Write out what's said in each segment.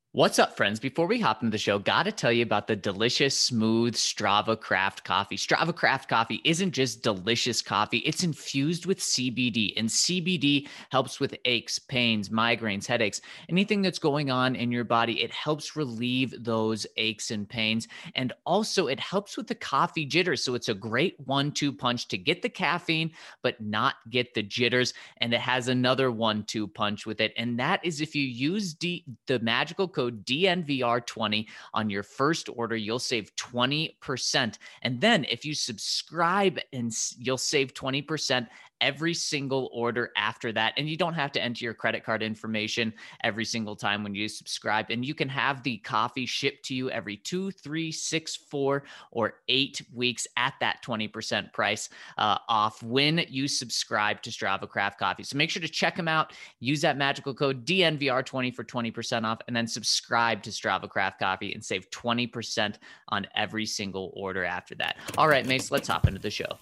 What's up, friends? Before we hop into the show, gotta tell you about the delicious, smooth Strava Craft coffee. Strava Craft coffee isn't just delicious coffee, it's infused with CBD, and CBD helps with aches, pains, migraines, headaches, anything that's going on in your body. It helps relieve those aches and pains. And also, it helps with the coffee jitters. So it's a great 1-2 punch to get the caffeine, but not get the jitters. And it has another 1-2 punch with it. And that is if you use the magical code DNVR20 on your first order, you'll save 20%. And then if you subscribe, and you'll save 20% every single order after that. And you don't have to enter your credit card information every single time when you subscribe. And you can have the coffee shipped to you every 2, 3, 6, 4, or 8 weeks at that 20% price off when you subscribe to Strava Craft Coffee. So make sure to check them out. Use that magical code DNVR20 for 20% off, and then subscribe to Strava Craft Coffee and save 20% on every single order after that. All right, Mace, let's hop into the show.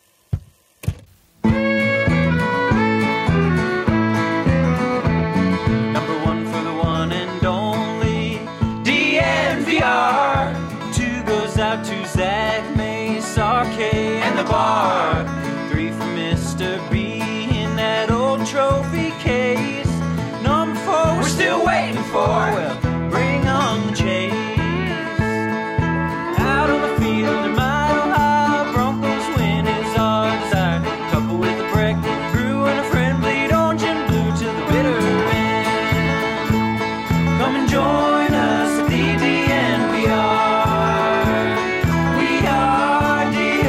Number one for the one and only DNVR. 2 goes out to Zach, Mace, RK, and the bar. 3 for Mr. B in that old trophy case. Number 4 we're still waiting for. Well, bring on the chase. Out on the field in Mile High, Broncos win is our desire. Couple with a break, brew and a friend, bleed orange and blue to the bitter end. Come and join us at the DNVR. We are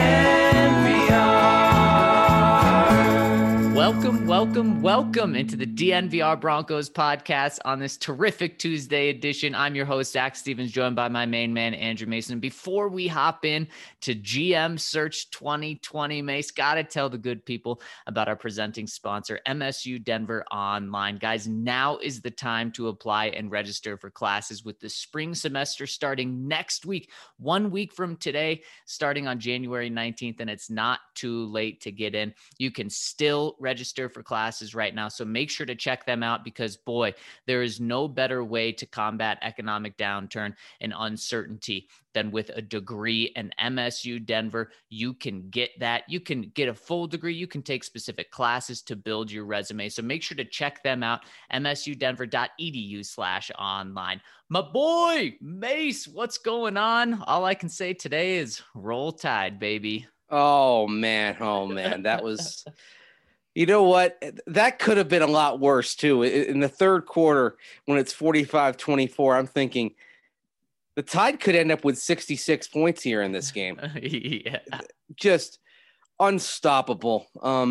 DNVR. Welcome into the DNVR Broncos podcast on this terrific Tuesday edition. I'm your host, Zach Stevens, joined by my main man, Andrew Mason. Before we hop in to GM Search 2020, Mace, got to tell the good people about our presenting sponsor, MSU Denver Online. Guys, now is the time to apply and register for classes with the spring semester starting next week, 1 week from today, starting on January 19th, and it's not too late to get in. You can still register for classes right now, so make sure to check them out because, boy, there is no better way to combat economic downturn and uncertainty than with a degree. And MSU Denver, you can get that. You can get a full degree. You can take specific classes to build your resume. So make sure to check them out, msudenver.edu/online. My boy, Mace, what's going on? All I can say today is roll tide, baby. Oh, man. That was, you know what? That could have been a lot worse, too. In the third quarter, when it's 45-24, I'm thinking the Tide could end up with 66 points here in this game. Yeah. Just unstoppable.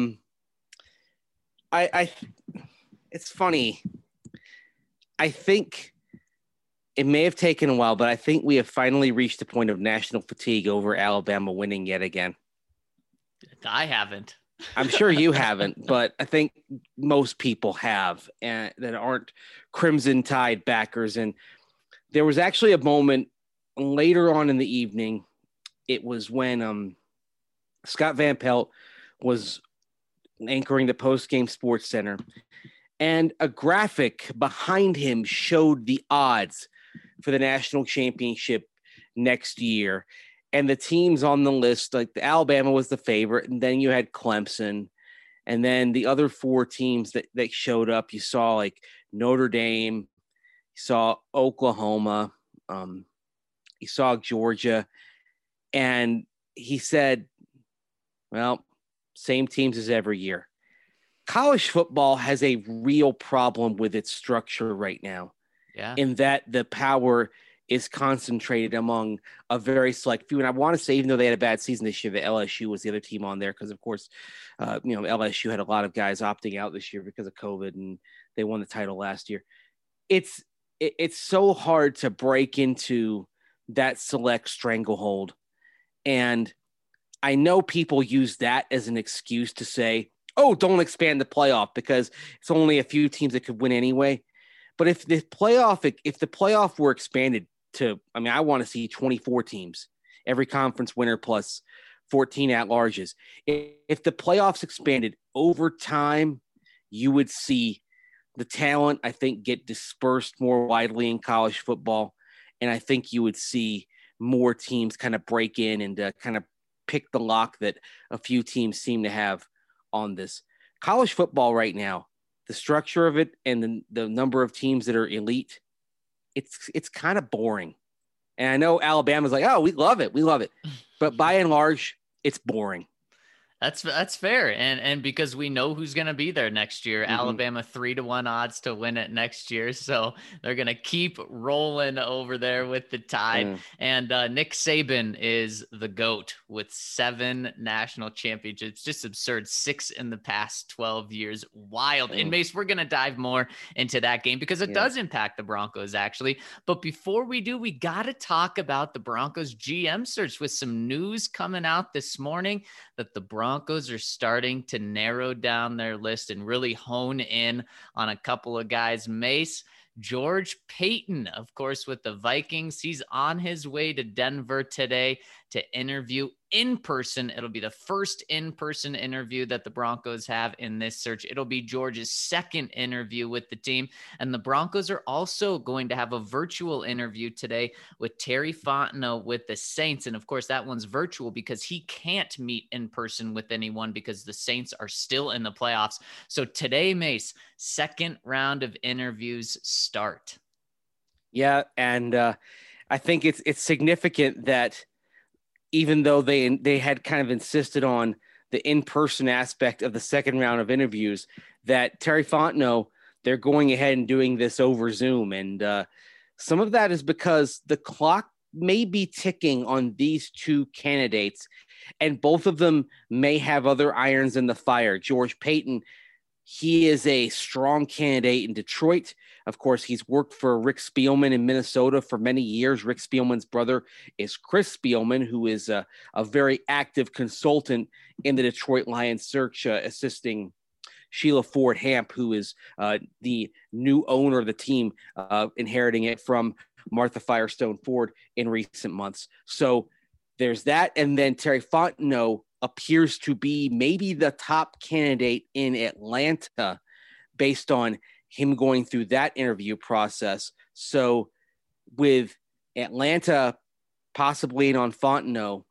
It's funny. I think it may have taken a while, but I think we have finally reached the point of national fatigue over Alabama winning yet again. I haven't. I'm sure you haven't, but I think most people have, and that aren't Crimson Tide backers. And there was actually a moment later on in the evening. It was when Scott Van Pelt was anchoring the post-game Sports Center, and a graphic behind him showed the odds for the national championship next year. And the teams on the list, like the Alabama was the favorite, and then you had Clemson, and then the other 4 teams that showed up. You saw like Notre Dame, you saw Oklahoma, you saw Georgia, and he said, well, same teams as every year. College football has a real problem with its structure right now. Yeah. In that the power is concentrated among a very select few. And I want to say, even though they had a bad season this year, the LSU was the other team on there because, of course, LSU had a lot of guys opting out this year because of COVID, and they won the title last year. It's so hard to break into that select stranglehold. And I know people use that as an excuse to say, oh, don't expand the playoff because it's only a few teams that could win anyway. But if the playoff were expanded to, I want to see 24 teams, every conference winner plus 14 at-larges. If the playoffs expanded over time, you would see the talent, I think, get dispersed more widely in college football. And I think you would see more teams kind of break in and kind of pick the lock that a few teams seem to have on this. College football right now, the structure of it and the number of teams that are elite, it's kind of boring. And I know Alabama's like, oh, we love it. We love it. But by and large, it's boring. That's fair. And because we know who's going to be there next year, Alabama 3-1 odds to win it next year. So they're going to keep rolling over there with the Tide. And Nick Saban is the GOAT with 7 national championships. Just absurd. 6 in the past 12 years. Wild. And Mace, we're going to dive more into that game because it does impact the Broncos actually. But before we do, we got to talk about the Broncos GM search with some news coming out this morning that the Broncos are starting to narrow down their list and really hone in on a couple of guys. Mace, George Paton, of course, with the Vikings. He's on his way to Denver today to interview in person. It'll be the first in-person interview that the Broncos have in this search. It'll be George's second interview with the team. And the Broncos are also going to have a virtual interview today with Terry Fontenot with the Saints. And of course, that one's virtual because he can't meet in person with anyone because the Saints are still in the playoffs. So today, Mace, second round of interviews start. Yeah. And I think it's significant that even though they had kind of insisted on the in-person aspect of the second round of interviews, that Terry Fontenot, they're going ahead and doing this over Zoom. And some of that is because the clock may be ticking on these two candidates, and both of them may have other irons in the fire. George Paton, he is a strong candidate in Detroit. Of course, he's worked for Rick Spielman in Minnesota for many years. Rick Spielman's brother is Chris Spielman, who is a very active consultant in the Detroit Lions search, assisting Sheila Ford Hamp, who is the new owner of the team, inheriting it from Martha Firestone Ford in recent months. So there's that. And then Terry Fontenot appears to be maybe the top candidate in Atlanta based on him going through that interview process. So with Atlanta possibly in on Fontenot,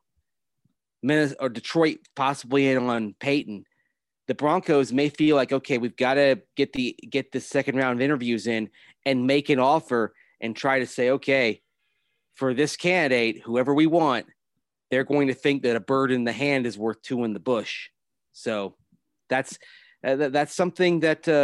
or Detroit possibly in on Paton, the Broncos may feel like, okay, we've got to get the second round of interviews in and make an offer and try to say, okay, for this candidate, whoever we want, they're going to think that a bird in the hand is worth 2 in the bush. So that's something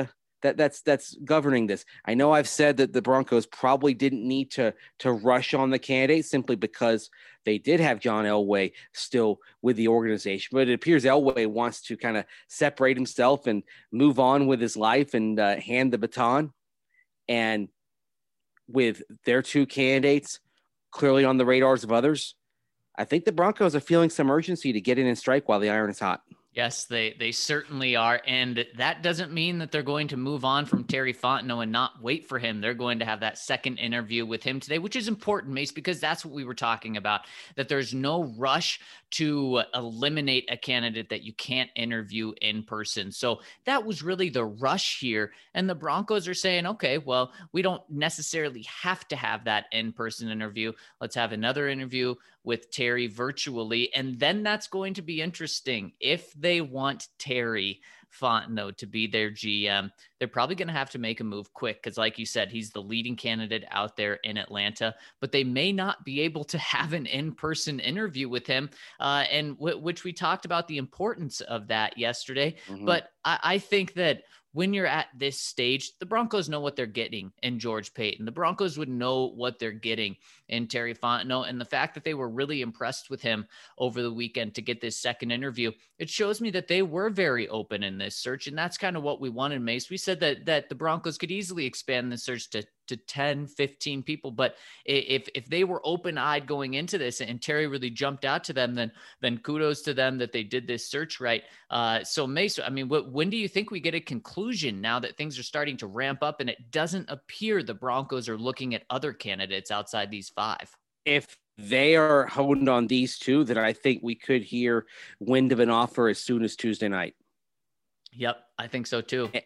that's governing this. I know I've said that the Broncos probably didn't need to rush on the candidate simply because they did have John Elway still with the organization, but it appears Elway wants to kind of separate himself and move on with his life and hand the baton. And with their two candidates clearly on the radars of others, I think the Broncos are feeling some urgency to get in and strike while the iron is hot. Yes, they certainly are. And that doesn't mean that they're going to move on from Terry Fontenot and not wait for him. They're going to have that second interview with him today, which is important, Mace, because that's what we were talking about, that there's no rush to eliminate a candidate that you can't interview in person. So that was really the rush here. And the Broncos are saying, okay, well, we don't necessarily have to have that in-person interview. Let's have another interview with Terry virtually. And then that's going to be interesting. If they want Terry Fontenot to be their GM, they're probably going to have to make a move quick because, like you said, he's the leading candidate out there in Atlanta, but they may not be able to have an in-person interview with him, which we talked about the importance of that yesterday. Mm-hmm. But I think that when you're at this stage, the Broncos know what they're getting in George Paton. The Broncos would know what they're getting in Terry Fontenot. And the fact that they were really impressed with him over the weekend to get this second interview, it shows me that they were very open in this search. And that's kind of what we wanted, Mace. We said that the Broncos could easily expand the search to 10, 15 people. But if they were open-eyed going into this and Terry really jumped out to them, then kudos to them that they did this search right. So Mace, I mean, when do you think we get a conclusion now that things are starting to ramp up and it doesn't appear the Broncos are looking at other candidates outside these 5? If they are honed on these two, then I think we could hear wind of an offer as soon as Tuesday night. Yep, I think so too.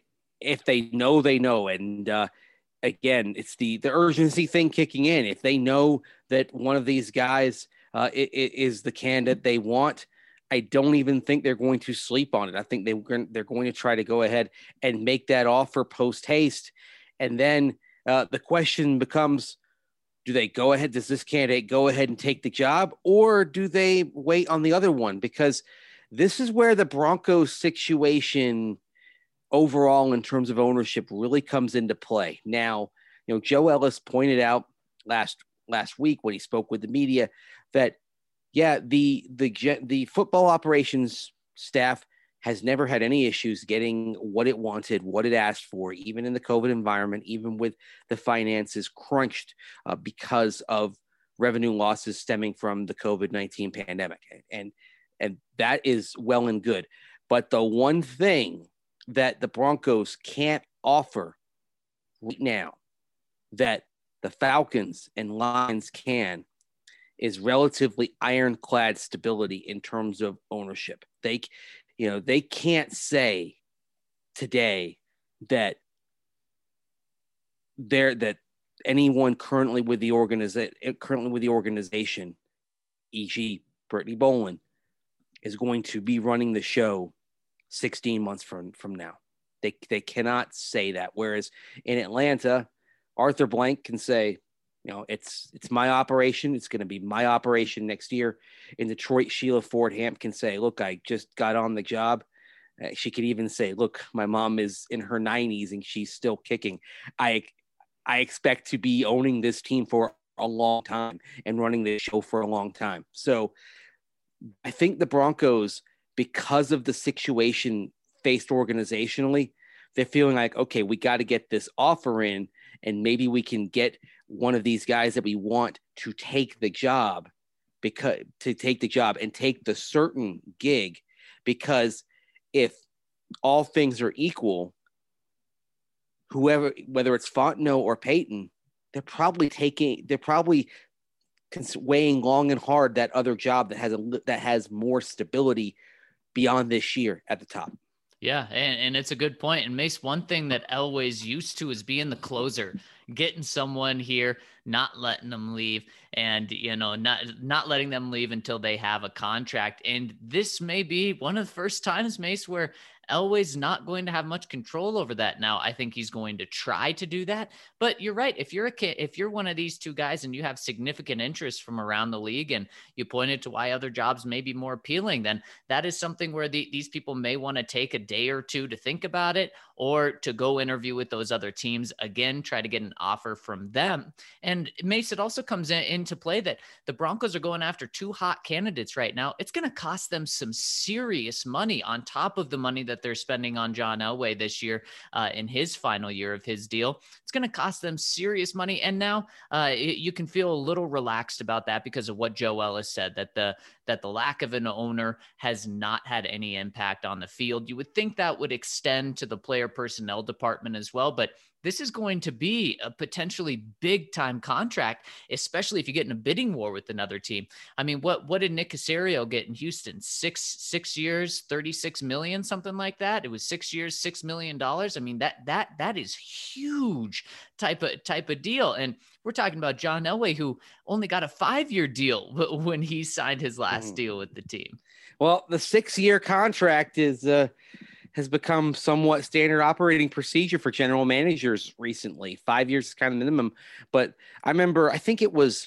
if they know, they know. And again, it's the urgency thing kicking in. If they know that one of these guys is the candidate they want, I don't even think they're going to sleep on it. I think they're going to try to go ahead and make that offer post haste. And then the question becomes, do they go ahead? Does this candidate go ahead and take the job, or do they wait on the other one? Because this is where the Broncos situation overall in terms of ownership really comes into play. Now, Joe Ellis pointed out last week when he spoke with the media that, yeah, the football operations staff has never had any issues getting what it wanted, what it asked for, even in the COVID environment, even with the finances crunched because of revenue losses stemming from the COVID-19 pandemic. And that is well and good. But the one thing that the Broncos can't offer right now that the Falcons and Lions can is relatively ironclad stability in terms of ownership. They can't say today that anyone currently with the organization, e.g. Brittany Boland, is going to be running the show 16 months from now. They cannot say that. Whereas in Atlanta, Arthur Blank can say, it's my operation. It's going to be my operation next year. In Detroit, Sheila Ford Hamp can say, look, I just got on the job. She could even say, look, my mom is in her 90s and she's still kicking. I expect to be owning this team for a long time and running the show for a long time. So I think the Broncos, because of the situation faced organizationally, they're feeling like, okay, we got to get this offer in, and maybe we can get one of these guys that we want to take the job and take the certain gig, because if all things are equal, whether it's Fontenot or Payton, they're probably weighing long and hard that other job that has more stability beyond this year at the top. Yeah, and it's a good point. And Mace, one thing that Elway's used to is being the closer, getting someone here, not letting them leave, and not letting them leave until they have a contract. And this may be one of the first times, Mace, where Elway's not going to have much control over that. Now, I think he's going to try to do that, but you're right. If you're one of these two guys and you have significant interest from around the league, and you pointed to why other jobs may be more appealing, then that is something where these people may want to take a day or two to think about it, or to go interview with those other teams again, try to get an offer from them. And Mace, it also comes into play that the Broncos are going after two hot candidates right now. It's going to cost them some serious money on top of the money that they're spending on John Elway this year in his final year of his deal. It's going to cost them serious money. And now you can feel a little relaxed about that because of what Joe Ellis said, that the lack of an owner has not had any impact on the field. You would think that would extend to the player personnel department as well, but this is going to be a potentially big time contract, especially if you get in a bidding war with another team. I mean, what did Nick Caserio get in Houston? Six years, 36 million, something like that. It was 6 years, $6 million. I mean, that is huge type of deal. And we're talking about John Elway, who only got a 5-year deal when he signed his last deal with the team. Well, the 6-year contract has become somewhat standard operating procedure for general managers recently. 5 years is kind of minimum. But I remember, I think it was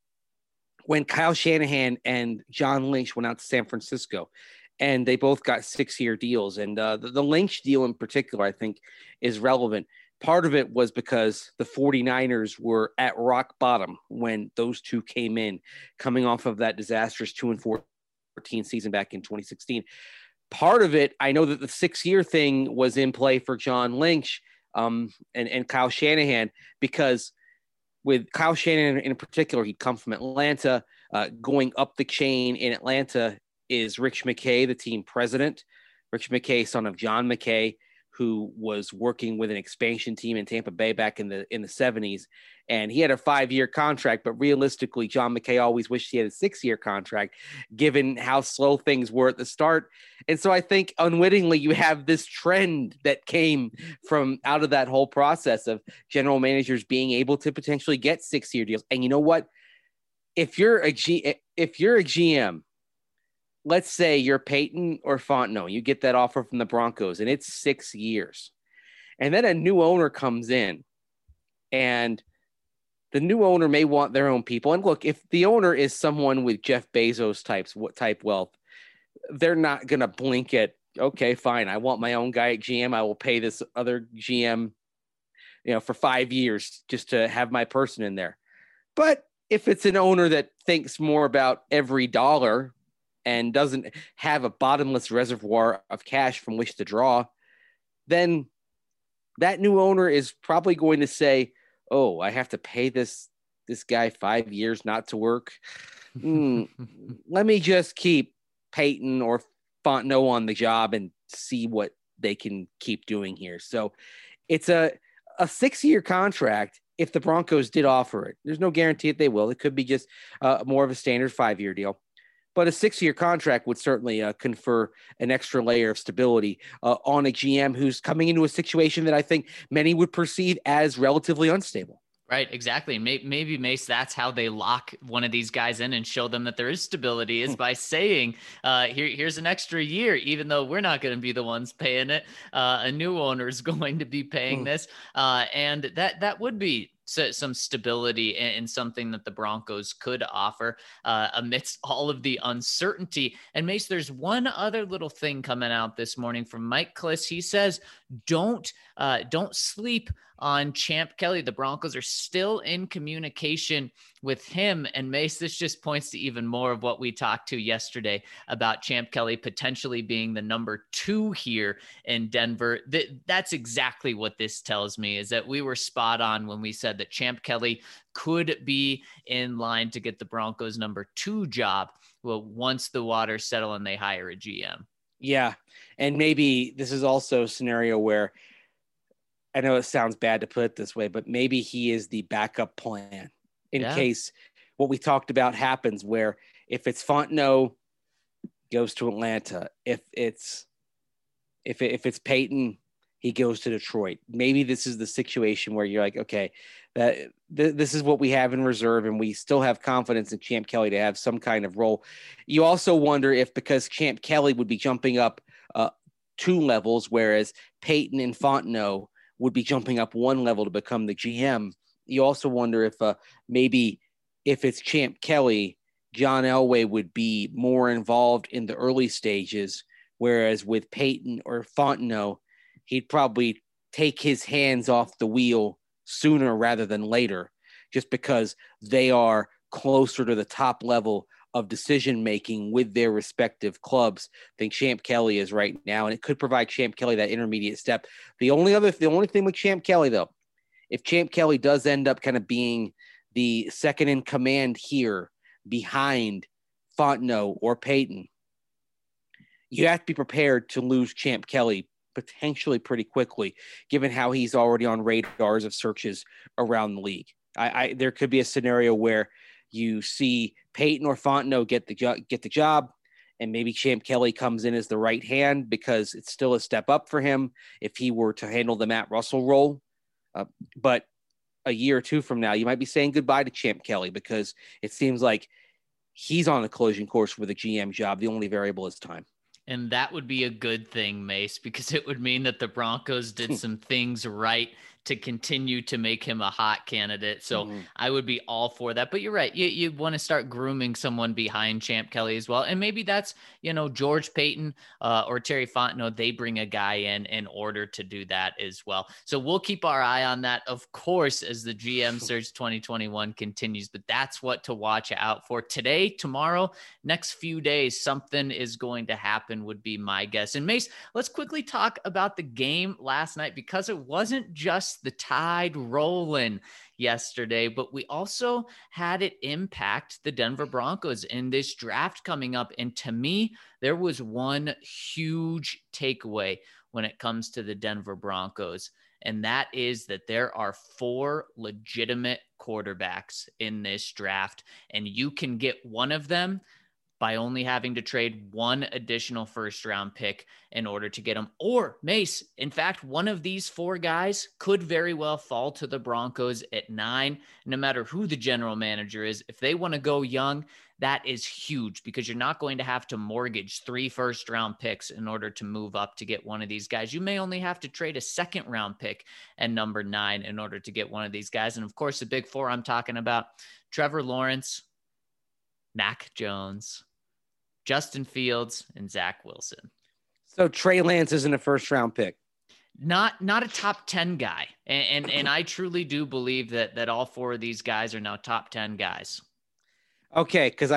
when Kyle Shanahan and John Lynch went out to San Francisco, and they both got 6-year deals. And the Lynch deal in particular, I think, is relevant. Part of it was because the 49ers were at rock bottom when those two came in, coming off of that disastrous 2-14 season back in 2016. Part of it, I know that the 6-year thing was in play for John Lynch and Kyle Shanahan, because with Kyle Shanahan in particular, he'd come from Atlanta. Going up the chain in Atlanta is Rich McKay, the team president. Rich McKay, son of John McKay, who was working with an expansion team in Tampa Bay back in the 70s. And he had a 5-year contract, but realistically, John McKay always wished he had a 6-year contract, given how slow things were at the start. And so I think unwittingly you have this trend that came from out of that whole process of general managers being able to potentially get 6-year deals. And you know what? If you're a GM, let's say you're Peyton or Fontenot, you get that offer from the Broncos and it's 6 years. And then a new owner comes in and the new owner may want their own people. And look, if the owner is someone with Jeff Bezos type wealth, they're not going to blink at, okay, fine, I want my own guy at GM. I will pay this other GM, for 5 years just to have my person in there. But if it's an owner that thinks more about every dollar and doesn't have a bottomless reservoir of cash from which to draw, then that new owner is probably going to say, oh, I have to pay this guy 5 years not to work. Let me just keep Peyton or Fontenot on the job and see what they can keep doing here. So it's a 6-year contract. If the Broncos did offer it, there's no guarantee that they will. It could be just more of a standard 5-year deal. But a 6-year contract would certainly confer an extra layer of stability on a GM who's coming into a situation that I think many would perceive as relatively unstable. Right, exactly. Maybe, Mace, that's how they lock one of these guys in and show them that there is stability, is by saying, here's an extra year, even though we're not going to be the ones paying it. A new owner is going to be paying this. And that would be some stability and something that the Broncos could offer amidst all of the uncertainty. And Mace, there's one other little thing coming out this morning from Mike Klis. He says, don't sleep on Champ Kelly. The Broncos are still in communication with him. And Mace, this just points to even more of what we talked to yesterday about Champ Kelly potentially being the number 2 here in Denver. That's exactly what this tells me, is that we were spot on when we said that Champ Kelly could be in line to get the Broncos number 2 job. Well, once the waters settle and they hire a GM. Yeah. And maybe this is also a scenario where, I know it sounds bad to put it this way, but maybe he is the backup plan in case what we talked about happens, where if it's Fontenot, goes to Atlanta. If it's Peyton, he goes to Detroit. Maybe this is the situation where you're like, okay, this is what we have in reserve, and we still have confidence in Champ Kelly to have some kind of role. You also wonder if, because Champ Kelly would be jumping up 2 levels, whereas Peyton and Fontenot would be jumping up 1 level to become the GM. You also wonder if maybe if it's Champ Kelly, John Elway would be more involved in the early stages, whereas with Peyton or Fontenot, he'd probably take his hands off the wheel sooner rather than later, just because they are closer to the top level of decision-making with their respective clubs than Champ Kelly is right now. And it could provide Champ Kelly that intermediate step. The only thing with Champ Kelly, though, if Champ Kelly does end up kind of being the second in command here behind Fontenot or Peyton, you have to be prepared to lose Champ Kelly potentially pretty quickly, given how he's already on radars of searches around the league. There could be a scenario where you see Peyton or Fontenot get the job, and maybe Champ Kelly comes in as the right hand because it's still a step up for him if he were to handle the Matt Russell role. But a year or 2 from now, you might be saying goodbye to Champ Kelly because it seems like he's on a collision course with a GM job. The only variable is time. And that would be a good thing, Mace, because it would mean that the Broncos did some things right to continue to make him a hot candidate. So I would be all for that. But you're right. You want to start grooming someone behind Champ Kelly as well. And maybe that's, George Payton or Terry Fontenot, they bring a guy in order to do that as well. So we'll keep our eye on that, of course, as the GM Search 2021 continues. But that's what to watch out for today, tomorrow, next few days. Something is going to happen would be my guess. And Mace, let's quickly talk about the game last night, because it wasn't just the tide rolling yesterday, but we also had it impact the Denver Broncos in this draft coming up. And to me, there was one huge takeaway when it comes to the Denver Broncos. And that is that there are 4 legitimate quarterbacks in this draft, and you can get one of them by only having to trade one additional first round pick in order to get them. Or Mace, in fact, one of these 4 guys could very well fall to the Broncos at 9, no matter who the general manager is. If they want to go young, that is huge, because you're not going to have to mortgage 3 first round picks in order to move up to get one of these guys. You may only have to trade a second round pick at number 9 in order to get one of these guys. And of course, the big 4 I'm talking about: Trevor Lawrence, Mac Jones, Justin Fields, and Zach Wilson. So Trey Lance isn't a first round pick. Not a top 10 guy. And I truly do believe that all 4 of these guys are now top 10 guys. Okay, because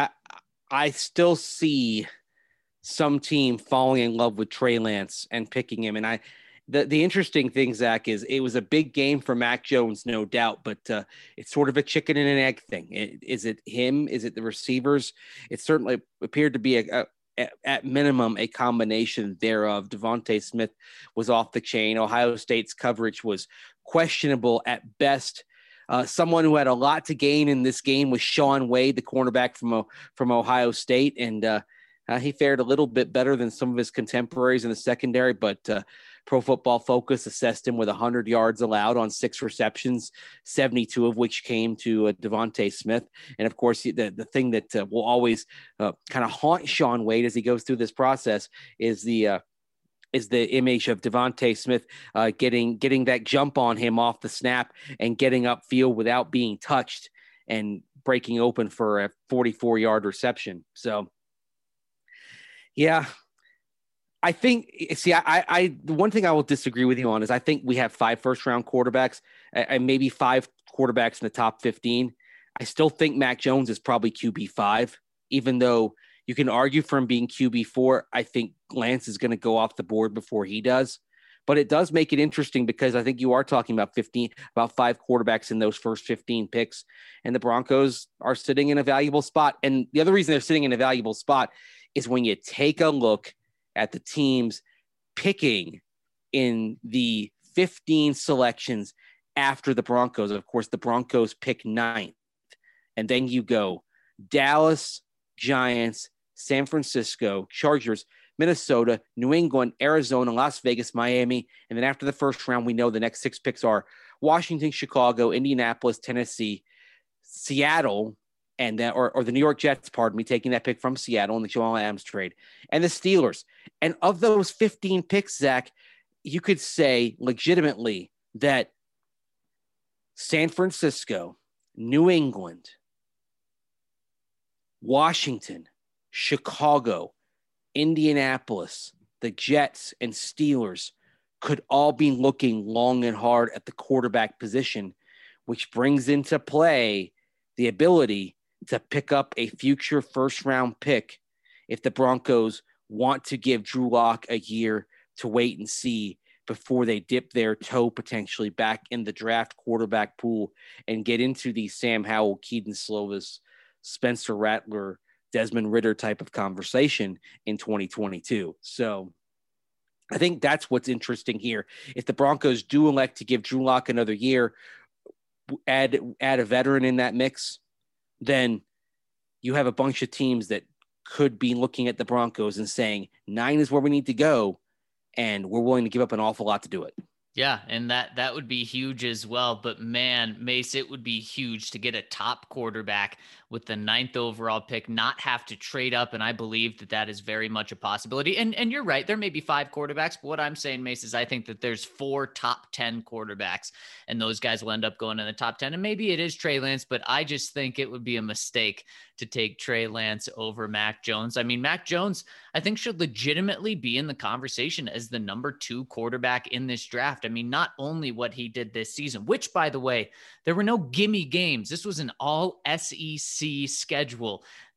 I still see some team falling in love with Trey Lance and picking him. And the interesting thing, Zach, is it was a big game for Mac Jones, no doubt, but it's sort of a chicken and an egg thing. Is it him? Is it the receivers? It certainly appeared to be at minimum a combination thereof. Devontae Smith was off the chain. Ohio State's coverage was questionable at best. Someone who had a lot to gain in this game was Shaun Wade, the cornerback from Ohio State, and he fared a little bit better than some of his contemporaries in the secondary, but Pro Football Focus assessed him with 100 yards allowed on 6 receptions, 72 of which came to Devontae Smith. And of course, the thing that will always kind of haunt Shaun Wade as he goes through this process is the image of Devontae Smith getting that jump on him off the snap and getting upfield without being touched and breaking open for a 44-yard reception. So, yeah, I think, the one thing I will disagree with you on is I think we have 5 first-round quarterbacks and maybe 5 quarterbacks in the top 15. I still think Mac Jones is probably QB5, even though you can argue for him being QB4. I think Lance is going to go off the board before he does. But it does make it interesting because I think you are talking about 5 quarterbacks in those first 15 picks, and the Broncos are sitting in a valuable spot. And the other reason they're sitting in a valuable spot is when you take a look at the teams picking in the 15 selections after the Broncos. Of course, the Broncos pick 9th. And then you go Dallas, Giants, San Francisco, Chargers, Minnesota, New England, Arizona, Las Vegas, Miami. And then after the first round, we know the next 6 picks are Washington, Chicago, Indianapolis, Tennessee, Seattle, and or the New York Jets, pardon me, taking that pick from Seattle in the Jamal Adams trade, and the Steelers. And of those 15 picks, Zach, you could say legitimately that San Francisco, New England, Washington, Chicago, Indianapolis, the Jets, and Steelers could all be looking long and hard at the quarterback position, which brings into play the ability to pick up a future first-round pick if the Broncos want to give Drew Lock a year to wait and see before they dip their toe potentially back in the draft quarterback pool and get into the Sam Howell, Keaton Slovis, Spencer Rattler, Desmond Ridder type of conversation in 2022. So I think that's what's interesting here. If the Broncos do elect to give Drew Lock another year, add a veteran in that mix, then you have a bunch of teams that could be looking at the Broncos and saying 9 is where we need to go, and we're willing to give up an awful lot to do it. Yeah, and that would be huge as well. But man, Mace, it would be huge to get a top quarterback with the 9th overall pick, not have to trade up. And I believe that is very much a possibility. And you're right, there may be 5 quarterbacks, but what I'm saying, Mace, is I think that there's 4 top 10 quarterbacks, and those guys will end up going in the top 10. And maybe it is Trey Lance, but I just think it would be a mistake to take Trey Lance over Mac Jones. I mean, Mac Jones, I think, should legitimately be in the conversation as the number 2 quarterback in this draft. I mean, not only what he did this season, which, by the way, there were no gimme games. This was an all SEC schedule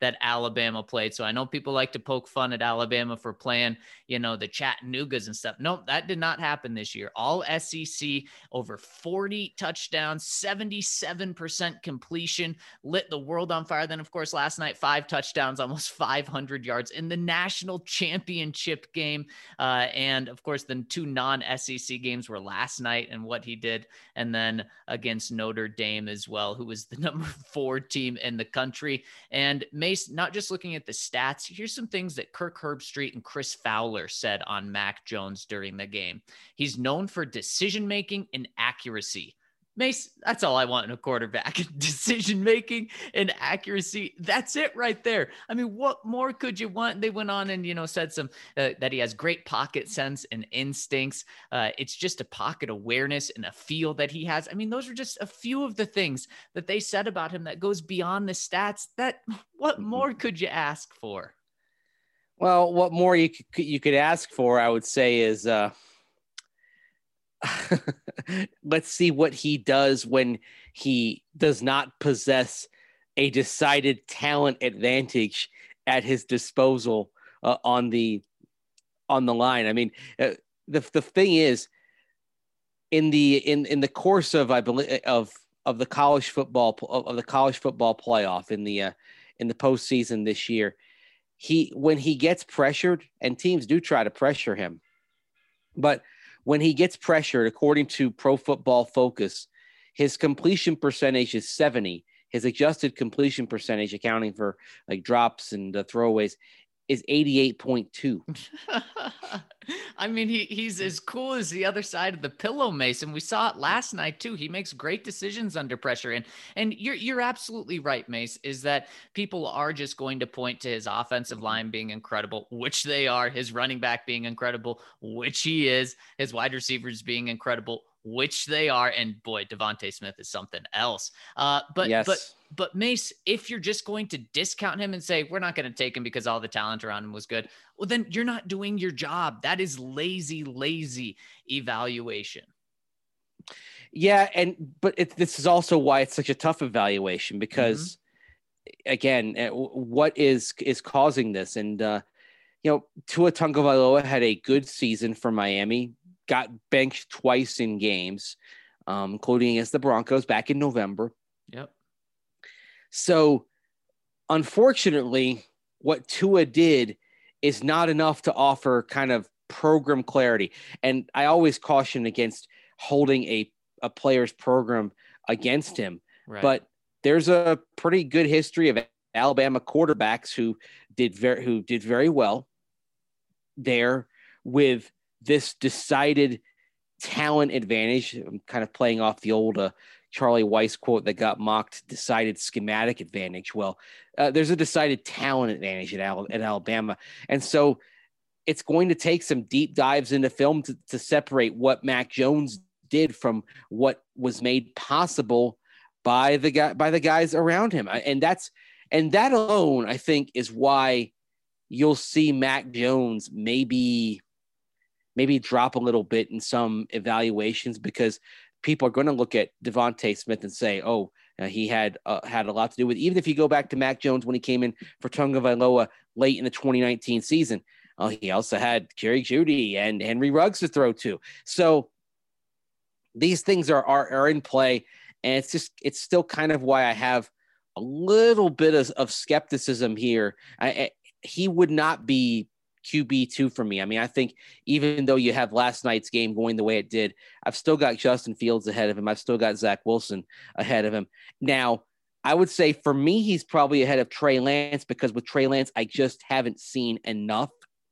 that Alabama played. So I know people like to poke fun at Alabama for playing, the Chattanoogas and stuff. Nope, that did not happen this year. All SEC, over 40 touchdowns, 77% completion, lit the world on fire. Then, of course, last night, 5 touchdowns, almost 500 yards in the national championship game. And, of course, the 2 non-SEC games were last night and what he did. And then against Notre Dame as well, who was the number 4 team in the country. And Mace, not just looking at the stats, here's some things that Kirk Herbstreit and Chris Fowler said on Mac Jones during the game. He's known for decision-making and accuracy. Mace, that's all I want in a quarterback. Decision-making and accuracy. That's it right there. I mean, what more could you want? They went on and, said some that he has great pocket sense and instincts. It's just a pocket awareness and a feel that he has. I mean, those are just a few of the things that they said about him that goes beyond the stats. What more could you ask for? Well, what more you could ask for, I would say, is let's see what he does when he does not possess a decided talent advantage at his disposal on the line. I mean, the thing is, in the course of, I believe, of the college football playoff in the postseason this year, when he gets pressured, and teams do try to pressure him, but when he gets pressured, according to Pro Football Focus, his completion percentage is 70. His adjusted completion percentage, accounting for like drops and throwaways, is 88.2. I mean, he's as cool as the other side of the pillow, Mason. We saw it last night too. He makes great decisions under pressure. And you're absolutely right, Mace, is that people are just going to point to his offensive line being incredible, which they are, his running back being incredible, which he is, his wide receivers being incredible, which they are. And boy, Devontae Smith is something else. But Mace, if you're just going to discount him and say, we're not going to take him because all the talent around him was good, well, then you're not doing your job. That is lazy evaluation. Yeah. But this is also why it's such a tough evaluation, because again, what is causing this? And, Tua Tagovailoa had a good season for Miami, got benched twice in games, including against the Broncos back in November. Yep. So, unfortunately, what Tua did is not enough to offer kind of program clarity. And I always caution against holding a player's program against him. Right. But there's a pretty good history of Alabama quarterbacks who did very well there with this decided talent advantage. I'm kind of playing off the old Charlie Weiss quote that got mocked, decided schematic advantage. Well, there's a decided talent advantage at Alabama. And so it's going to take some deep dives into film to separate what Mac Jones did from what was made possible by the guys around him. And that alone, I think, is why you'll see Mac Jones maybe drop a little bit in some evaluations, because people are going to look at Devontae Smith and say, he had a lot to do with it. Even if you go back to Mac Jones when he came in for Tagovailoa late in the 2019 season, he also had Jerry Jeudy and Henry Ruggs to throw to. So these things are in play, and it's still kind of why I have a little bit of skepticism here. He would not be QB2 for me. I mean, I think even though you have last night's game going the way it did, I've still got Justin Fields ahead of him. I've still got Zach Wilson ahead of him. Now, I would say for me, he's probably ahead of Trey Lance, because with Trey Lance, I just haven't seen enough.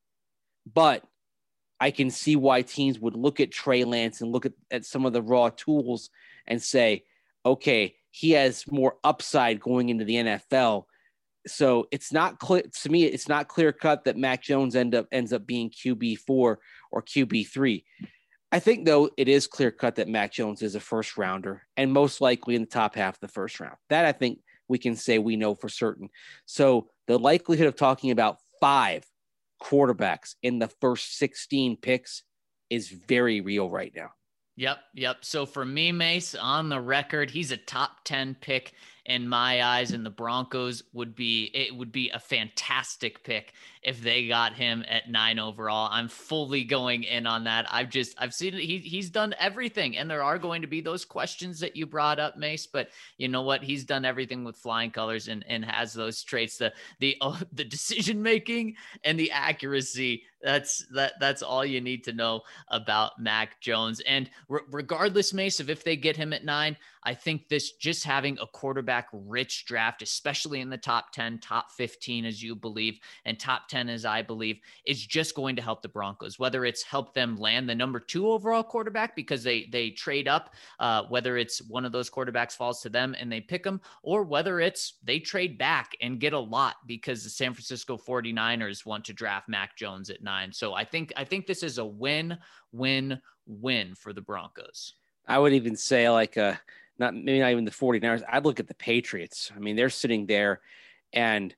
But I can see why teams would look at Trey Lance and look at some of the raw tools and say, okay, he has more upside going into the NFL. So it's not clear to me. It's not clear cut that Mac Jones ends up being QB4 or QB3. I think, though, it is clear cut that Mac Jones is a first rounder, and most likely in the top half of the first round. That I think we can say we know for certain. So the likelihood of talking about 5 quarterbacks in the first 16 picks is very real right now. Yep. So for me, Mace, on the record, he's a top 10 pick in my eyes, and the Broncos would be a fantastic pick if they got him at 9 overall. I'm fully going in on that. I've seen it. He's done everything, and there are going to be those questions that you brought up, Mace, but you know what? He's done everything with flying colors and has those traits, the decision making and the accuracy. That's all you need to know about Mac Jones. And regardless, Mace, of if they get him at 9, I think this just having a quarterback rich draft, especially in the top 10, top 15, as you believe, and top 10, as I believe, is just going to help the Broncos, whether it's help them land the number 2 overall quarterback because they trade up, whether it's one of those quarterbacks falls to them and they pick them, or whether it's they trade back and get a lot because the San Francisco 49ers want to draft Mac Jones at 9. So I think this is a win-win-win for the Broncos. I would even say maybe not even the 49ers. I'd look at the Patriots. I mean, they're sitting there, and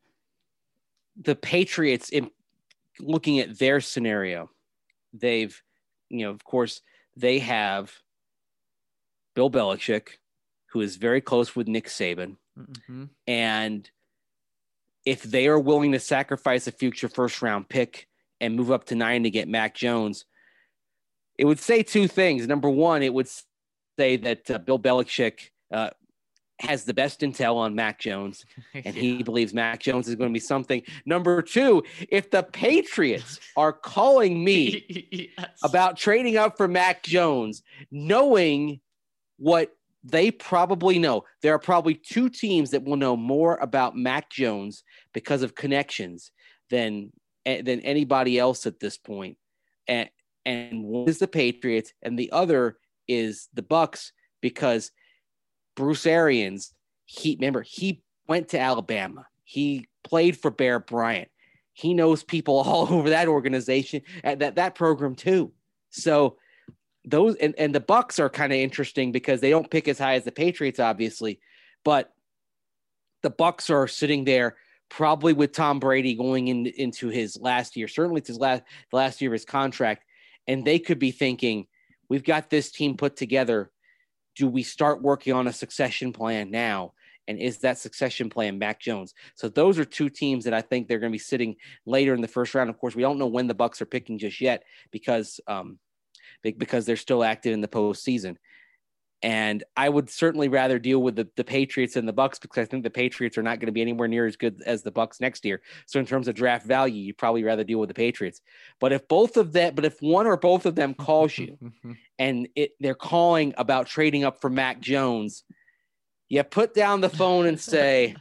the Patriots, in looking at their scenario, they've, of course, they have Bill Belichick, who is very close with Nick Saban. Mm-hmm. And if they are willing to sacrifice a future first-round pick and move up to 9 to get Mac Jones, it would say 2 things. Number one, it would say that Bill Belichick has the best intel on Mac Jones, and he believes Mac Jones is going to be something. Number 2, if the Patriots are calling me about trading up for Mac Jones, knowing what they probably know, there are probably 2 teams that will know more about Mac Jones because of connections than anybody else at this point. And one is the Patriots, and the other is the Bucks, because Bruce Arians, he went to Alabama. He played for Bear Bryant. He knows people all over that organization, that program too. So those and the Bucks are kind of interesting because they don't pick as high as the Patriots, obviously, but the Bucks are sitting there probably with Tom Brady going into his last year, certainly it's the last year of his contract, and they could be thinking, we've got this team put together. Do we start working on a succession plan now? And is that succession plan Mac Jones? So those are 2 teams that I think they're going to be sitting later in the first round. Of course, we don't know when the Bucks are picking just yet because they're still active in the postseason. And I would certainly rather deal with the Patriots and the Bucks because I think the Patriots are not going to be anywhere near as good as the Bucks next year. So in terms of draft value, you'd probably rather deal with the Patriots. But if one or both of them calls you and they're calling about trading up for Mac Jones, you put down the phone and say,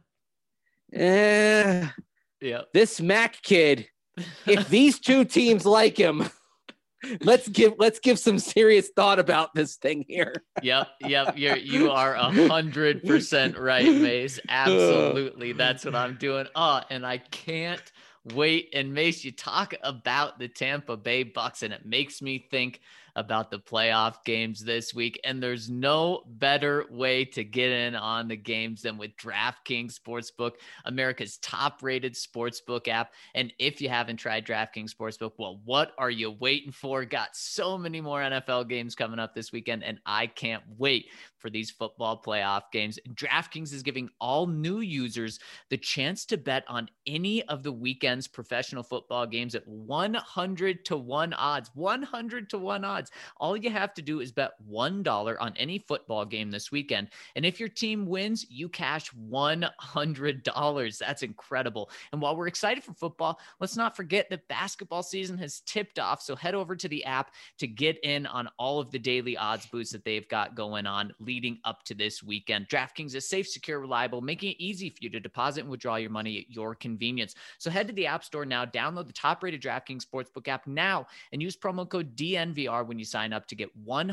this Mac kid, if these 2 teams like him, let's give some serious thought about this thing here. Yep. You are 100% right, Mace. Absolutely. That's what I'm doing. And I can't wait. And Mace, you talk about the Tampa Bay Bucks, and it makes me think about the playoff games this week. And there's no better way to get in on the games than with DraftKings Sportsbook, America's top-rated sportsbook app. And if you haven't tried DraftKings Sportsbook, well, what are you waiting for? Got so many more NFL games coming up this weekend, and I can't wait for these football playoff games. DraftKings is giving all new users the chance to bet on any of the weekend's professional football games at 100-1 odds. 100-1 odds. All you have to do is bet $1 on any football game this weekend. And if your team wins, you cash $100. That's incredible. And while we're excited for football, let's not forget that basketball season has tipped off. So head over to the app to get in on all of the daily odds boosts that they've got going on leading up to this weekend. DraftKings is safe, secure, reliable, making it easy for you to deposit and withdraw your money at your convenience. So head to the App Store now, download the top-rated DraftKings Sportsbook app now, and use promo code DNVR when you sign up to get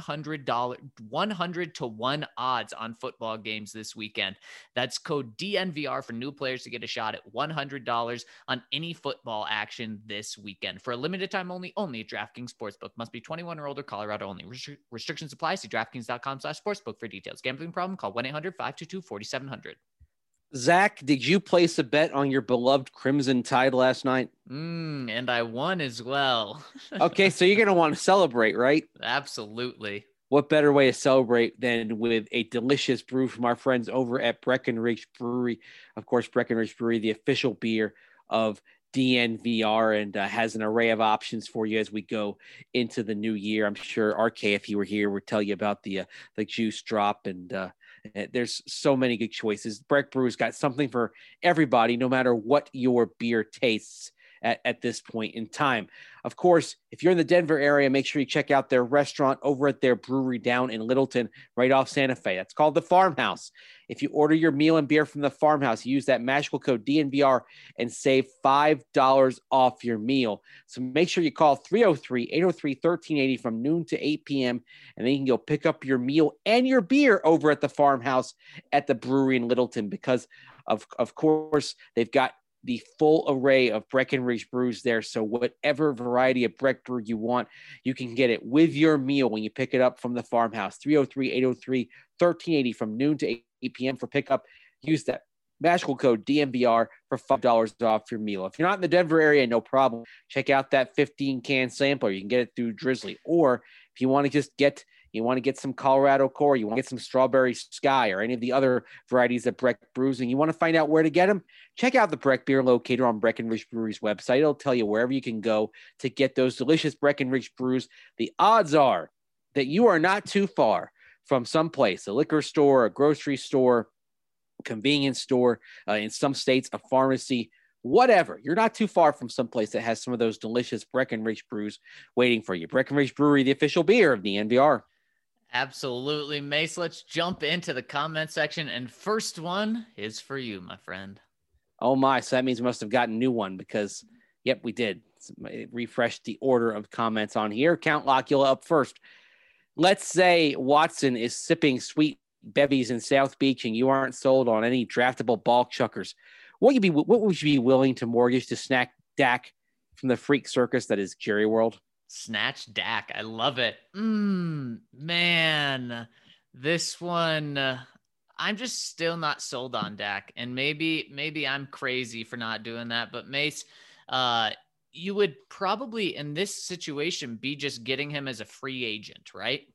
$100-1 odds on football games this weekend. That's code DNVR for new players to get a shot at $100 on any football action this weekend. For a limited time only at DraftKings Sportsbook. Must be 21 or older, Colorado only. Restrictions apply. See DraftKings.com/sportsbook for details. Gambling problem? Call 1-800-522-4700. Zach, did you place a bet on your beloved Crimson Tide last night? And I won as well. Okay, so you're going to want to celebrate, right? Absolutely. what better way to celebrate than with a delicious brew from our friends over at Breckenridge Brewery? Of course, Breckenridge Brewery, the official beer of DNVR, and has an array of options for you as we go into the new year. I'm sure RK, if he were here, would tell you about the juice drop, and there's so many good choices. Breck Brew's got something for everybody, no matter what your beer tastes at this point in time. Of course, if you're in the Denver area, make sure you check out their restaurant over at their brewery down in Littleton, right off Santa Fe. That's called the Farmhouse. If you order your meal and beer from the Farmhouse, use that magical code DNVR and save $5 off your meal. So make sure you call 303-803-1380 from noon to 8 p.m. and then you can go pick up your meal and your beer over at the Farmhouse at the brewery in Littleton, because of course they've got the full array of Breckenridge brews there. So whatever variety of Breck brew you want, you can get it with your meal when you pick it up from the Farmhouse. 303-803-1380 from noon to 8 p.m. for pickup. Use that magical code DNVR for $5 off your meal. If you're not in the Denver area, no problem. Check out that 15-can sampler. You can get it through Drizzly. Or if you want to just get some Colorado Core, you want to get some Strawberry Sky or any of the other varieties of Breck brews, and you want to find out where to get them, check out the Breck Beer Locator on Breckenridge Brewery's website. It'll tell you wherever you can go to get those delicious Breckenridge brews. The odds are that you are not too far from someplace, a liquor store, a grocery store, convenience store, in some states, a pharmacy, whatever. You're not too far from someplace that has some of those delicious Breckenridge brews waiting for you. Breckenridge Brewery, the official beer of the NVR. Absolutely, Mace. Let's jump into the comment section. And first one is for you, my friend. Oh my, so that means we must have gotten a new one because, yep, we did. It refreshed the order of comments on here. Count Locula up first. Let's say Watson is sipping sweet bevies in South Beach and you aren't sold on any draftable ball chuckers. What would you be willing to mortgage to snack Dak from the freak circus that is Jerry World? Snatch Dak. I love it. Man, this one, I'm just still not sold on Dak. And maybe I'm crazy for not doing that. But Mace, you would probably in this situation be just getting him as a free agent, right?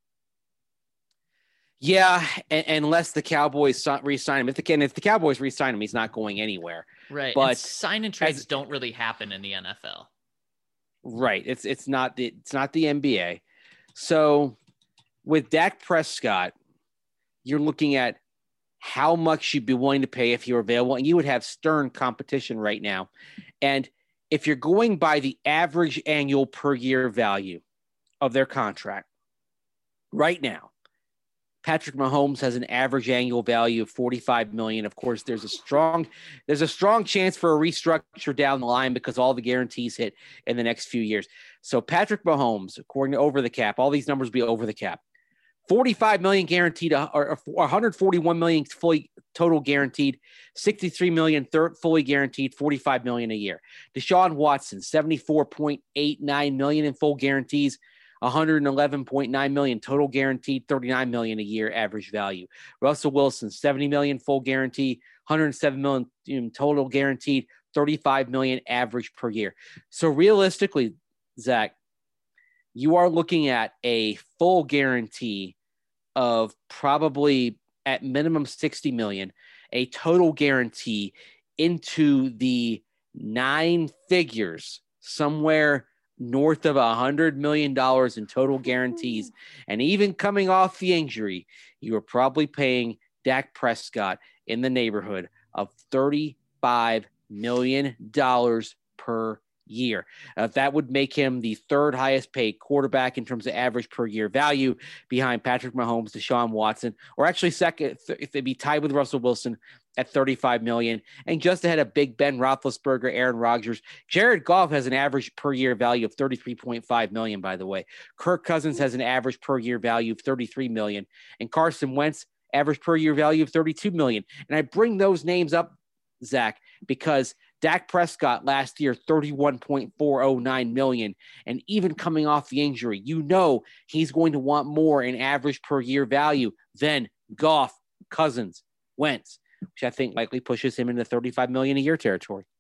Yeah, unless the Cowboys re-sign him. If the Cowboys re-sign him, he's not going anywhere. Right. But and sign and trades don't really happen in the NFL. Right. It's not the NBA. So with Dak Prescott, you're looking at how much you'd be willing to pay if you're available, and you would have stern competition right now. And if you're going by the average annual per year value of their contract right now, Patrick Mahomes has an average annual value of $45 million. Of course, there's a strong chance for a restructure down the line because all the guarantees hit in the next few years. So Patrick Mahomes, according to Over the Cap, all these numbers will be over the cap. $45 million guaranteed, or $141 million fully total guaranteed, $63 million fully guaranteed, $45 million a year. Deshaun Watson, $74.89 million in full guarantees, $111.9 million total guaranteed, $39 million a year average value. Russell Wilson, $70 million full guarantee, $107 million total guaranteed, $35 million average per year. So realistically, Zach, you are looking at a full guarantee of probably at minimum $60 million, a total guarantee into the 9 figures, somewhere north of $100 million in total guarantees. And even coming off the injury, you are probably paying Dak Prescott in the neighborhood of $35 million per year. That would make him the third highest paid quarterback in terms of average per year value behind Patrick Mahomes, Deshaun Watson, or actually second if they'd be tied with Russell Wilson at $35 million, and just ahead of Big Ben Roethlisberger, Aaron Rodgers. Jared Goff has an average per year value of $33.5 million, by the way. Kirk Cousins has an average per year value of $33 million, and Carson Wentz average per year value of $32 million. And I bring those names up, Zach, because Dak Prescott last year, $31.409 million. And even coming off the injury, he's going to want more in average per year value than Goff, Cousins, Wentz, which I think likely pushes him into $35 million a year territory.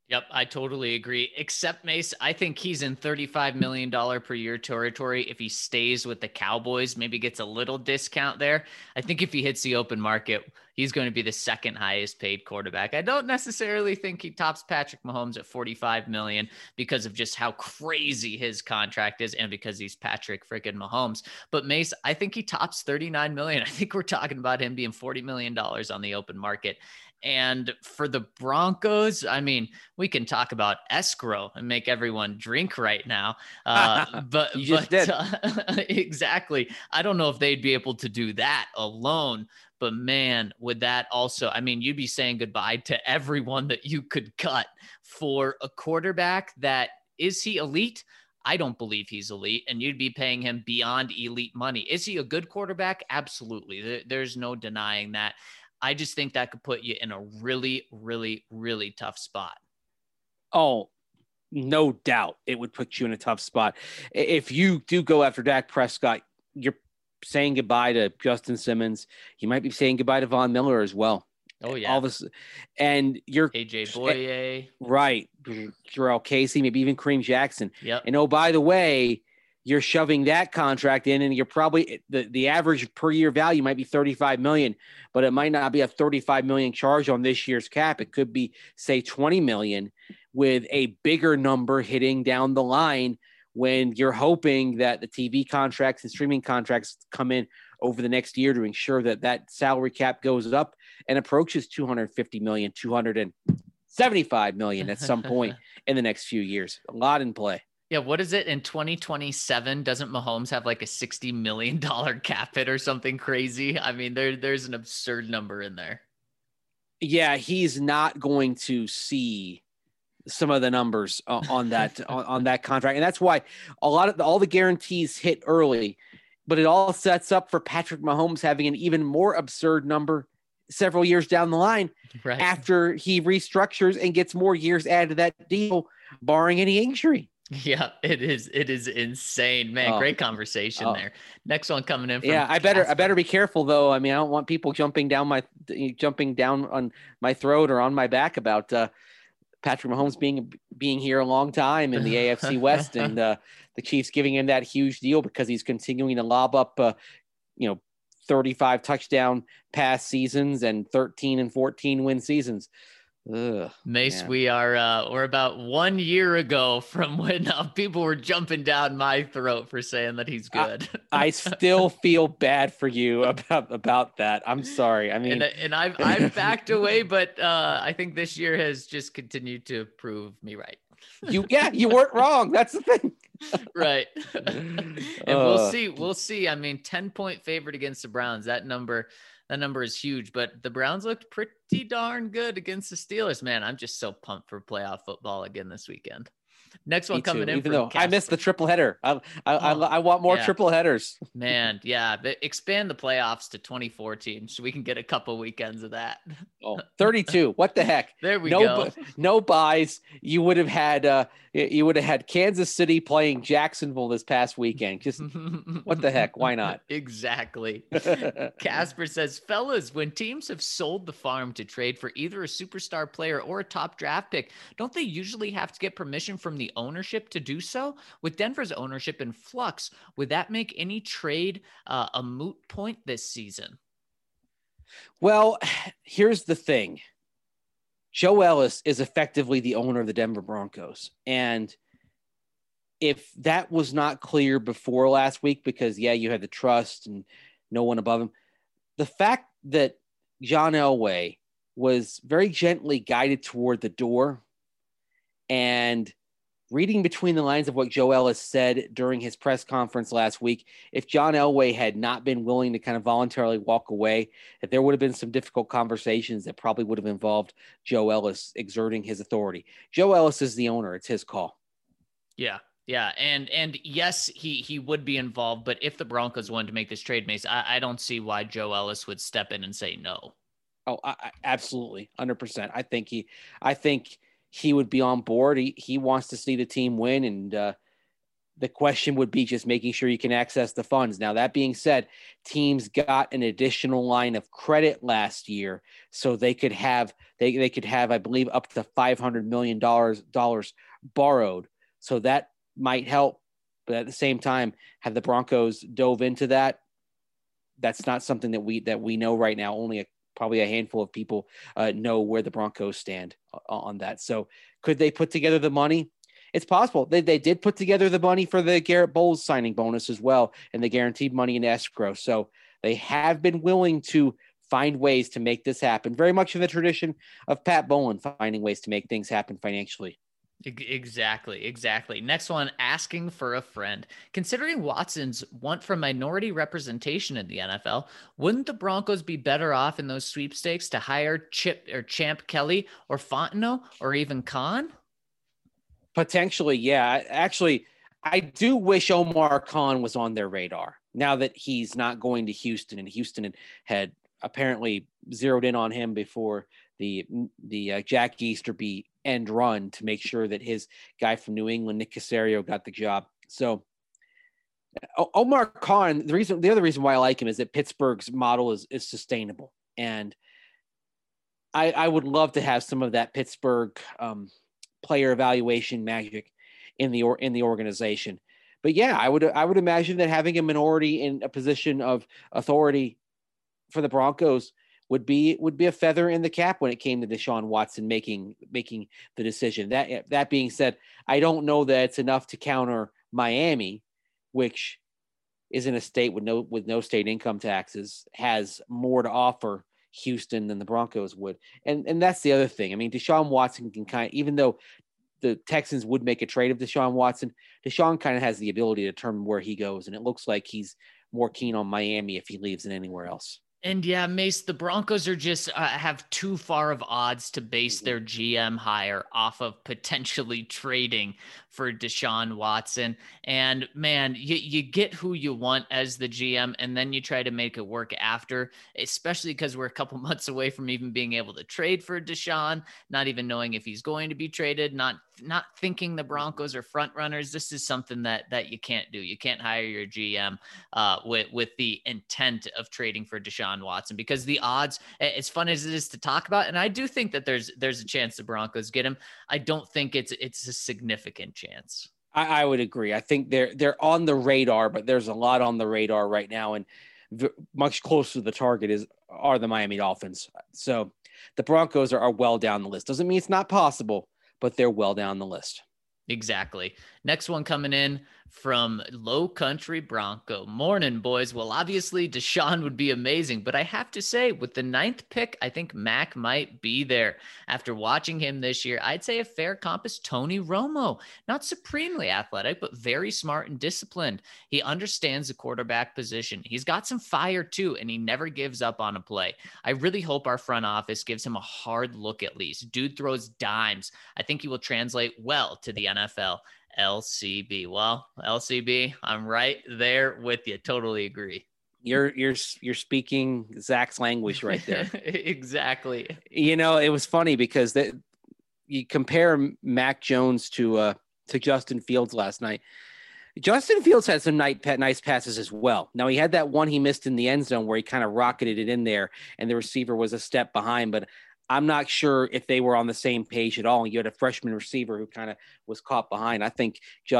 Yep, I totally agree. Except Mace, I think he's in $35 million per year territory. If he stays with the Cowboys, maybe gets a little discount there. I think if he hits the open market, he's going to be the second highest paid quarterback. I don't necessarily think he tops Patrick Mahomes at 45 million because of just how crazy his contract is and because he's Patrick freaking Mahomes. But Mace, I think he tops 39 million. I think we're talking about him being $40 million on the open market. And for the Broncos, I mean, we can talk about escrow and make everyone drink right now. But You just did. Exactly. I don't know if they'd be able to do that alone. But man, would that also, I mean, you'd be saying goodbye to everyone that you could cut for a quarterback that is he elite? I don't believe he's elite, and you'd be paying him beyond elite money. Is he a good quarterback? Absolutely. There's no denying that. I just think that could put you in a really, really, really tough spot. Oh, no doubt it would put you in a tough spot. If you do go after Dak Prescott, you're saying goodbye to Justin Simmons. You might be saying goodbye to Von Miller as well. Oh, yeah. All this, and you're AJ Boye. Right. Jarrell Casey, maybe even Kareem Jackson. Yep. And oh, by the way, you're shoving that contract in, and you're probably the average per year value might be 35 million, but it might not be a 35 million charge on this year's cap. It could be, say, 20 million with a bigger number hitting down the line when you're hoping that the TV contracts and streaming contracts come in over the next year to ensure that that salary cap goes up and approaches 250 million, 275 million at some point in the next few years. A lot in play. Yeah, what is it in 2027? Doesn't Mahomes have like a $60 million cap hit or something crazy? I mean, there's an absurd number in there. Yeah, he's not going to see some of the numbers on that on that contract, and that's why all the guarantees hit early, but it all sets up for Patrick Mahomes having an even more absurd number several years down the line, right, after he restructures and gets more years added to that deal, barring any injury. Yeah, it is insane, man. Great conversation there. Next one coming in from I better be careful though. I mean, I don't want people jumping down on my throat or on my back about Patrick Mahomes being here a long time in the AFC West and the Chiefs giving him that huge deal because he's continuing to lob up 35 touchdown pass seasons and 13 and 14 win seasons. Ugh, Mace, man. we're about 1 year ago from when people were jumping down my throat for saying that he's good. I still feel bad for you about that. I'm sorry. I mean, and I've backed away, but I think this year has just continued to prove me right. You weren't wrong. That's the thing. Right. And we'll see. I mean, 10-point favorite against the Browns. That number is huge, but the Browns looked pretty darn good against the Steelers. Man, I'm just so pumped for playoff football again this weekend. Next one coming in. Even though I missed the triple header. I want more triple headers. Man, yeah. But expand the playoffs to 24 teams so we can get a couple weekends of that. 32. What the heck? There we go. No buys. You would have had Kansas City playing Jacksonville this past weekend. Just what the heck? Why not? Exactly. Casper says, fellas, when teams have sold the farm to trade for either a superstar player or a top draft pick, don't they usually have to get permission from the ownership to do so? With Denver's ownership in flux, would that make any trade a moot point this season? Well, here's the thing. Joe Ellis is effectively the owner of the Denver Broncos. And if that was not clear before last week, because you had the trust and no one above him, the fact that John Elway was very gently guided toward the door, and reading between the lines of what Joe Ellis said during his press conference last week, if John Elway had not been willing to kind of voluntarily walk away, that there would have been some difficult conversations that probably would have involved Joe Ellis exerting his authority. Joe Ellis is the owner. It's his call. Yeah. Yeah. And yes, he would be involved, but if the Broncos wanted to make this trade, Mace, I don't see why Joe Ellis would step in and say no. Oh, absolutely. 100%. I think he would be on board. He wants to see the team win. And The question would be just making sure you can access the funds. Now, that being said, teams got an additional line of credit last year, so they could have, I believe, up to $500 million borrowed. So that might help. But at the same time, have the Broncos dove into that? That's not something that we know right now. Only probably a handful of people know where the Broncos stand on that. So could they put together the money? It's possible. They did put together the money for the Garrett Bowles signing bonus as well, and the guaranteed money in escrow. So they have been willing to find ways to make this happen, very much in the tradition of Pat Bowlen, finding ways to make things happen financially. Exactly. Next one, asking for a friend. Considering Watson's want for minority representation in the NFL, wouldn't the Broncos be better off in those sweepstakes to hire Chip or Champ Kelly or Fontenot or even Khan? Potentially, yeah. Actually, I do wish Omar Khan was on their radar now that he's not going to Houston, and Houston had apparently zeroed in on him before the Jack Easterby end run to make sure that his guy from New England, Nick Caserio, got the job. So Omar Khan, the other reason why I like him is that Pittsburgh's model is sustainable, and I would love to have some of that Pittsburgh player evaluation magic in the organization. But yeah, I would imagine that having a minority in a position of authority for the Broncos would be a feather in the cap when it came to Deshaun Watson making the decision. That being said, I don't know that it's enough to counter Miami, which is in a state with no state income taxes, has more to offer Houston than the Broncos would. And that's the other thing. I mean, Deshaun Watson can even though the Texans would make a trade of Deshaun Watson, Deshaun kind of has the ability to determine where he goes. And it looks like he's more keen on Miami if he leaves than anywhere else. And yeah, Mace, the Broncos are just have too far of odds to base their GM hire off of potentially trading for Deshaun Watson. And man, you get who you want as the GM, and then you try to make it work after, especially because we're a couple months away from even being able to trade for Deshaun, not even knowing if he's going to be traded, not thinking the Broncos are front runners. This is something that you can't do. You can't hire your GM with the intent of trading for Deshaun Watson, because the odds, as fun as it is to talk about, and I do think that there's a chance the Broncos get him, I don't think it's a significant chance. I would agree. I think they're on the radar, but there's a lot on the radar right now, and much closer to the target are the Miami Dolphins. So the Broncos are well down the list. Doesn't mean it's not possible, but they're well down the list. Exactly. Next one coming in from Low Country Bronco. Morning, boys. Well, obviously Deshaun would be amazing, but I have to say, with the 9th pick, I think Mac might be there. After watching him this year, I'd say a fair comp is Tony Romo. Not supremely athletic, but very smart and disciplined. He understands the quarterback position. He's got some fire too, and he never gives up on a play. I really hope our front office gives him a hard look at least. Dude throws dimes. I think he will translate well to the NFL. LCB. Well, LCB, I'm right there with you. Totally agree. You're speaking Zach's language right there. Exactly. You know, it was funny because you compare Mac Jones to Justin Fields last night. Justin Fields had some nice passes as well. Now, he had that one he missed in the end zone where he kind of rocketed it in there and the receiver was a step behind, but I'm not sure if they were on the same page at all. You had a freshman receiver who kind of was caught behind. I think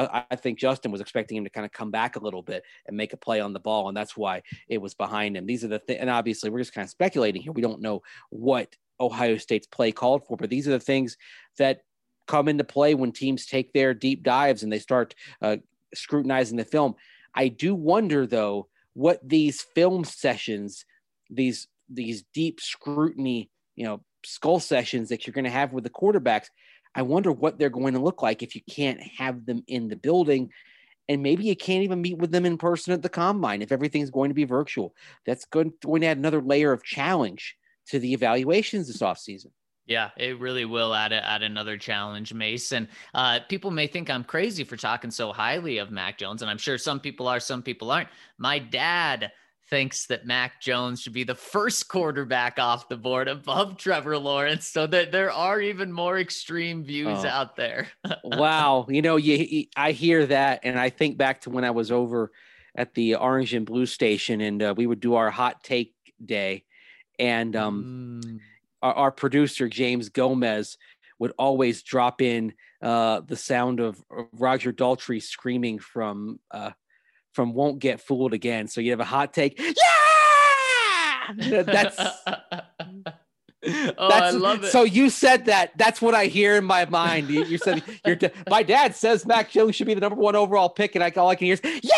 Justin was expecting him to kind of come back a little bit and make a play on the ball, and that's why it was behind him. These are the things, and obviously we're just kind of speculating here. We don't know what Ohio State's play called for, but these are the things that come into play when teams take their deep dives and they start scrutinizing the film. I do wonder, though, what these film sessions, these deep scrutiny, skull sessions that you're going to have with the quarterbacks, I wonder what they're going to look like if you can't have them in the building, and maybe you can't even meet with them in person at the combine if everything's going to be virtual. That's going to add another layer of challenge to the evaluations this offseason. Yeah, it really will add another challenge, Mason. People may think I'm crazy for talking so highly of Mac Jones, and I'm sure some people are, some people aren't. My dad thinks that Mac Jones should be the first quarterback off the board above Trevor Lawrence, so that there are even more extreme views out there. Wow. I hear that, and I think back to when I was over at the Orange and Blue station, and we would do our hot take day, and our producer, James Gomez, would always drop in the sound of Roger Daltrey screaming from Won't Get Fooled Again. So you have a hot take. Yeah! That's I love it. So you said that. That's what I hear in my mind. You said my dad says Mac Jones should be the number 1 overall pick, and all I can hear is, yeah!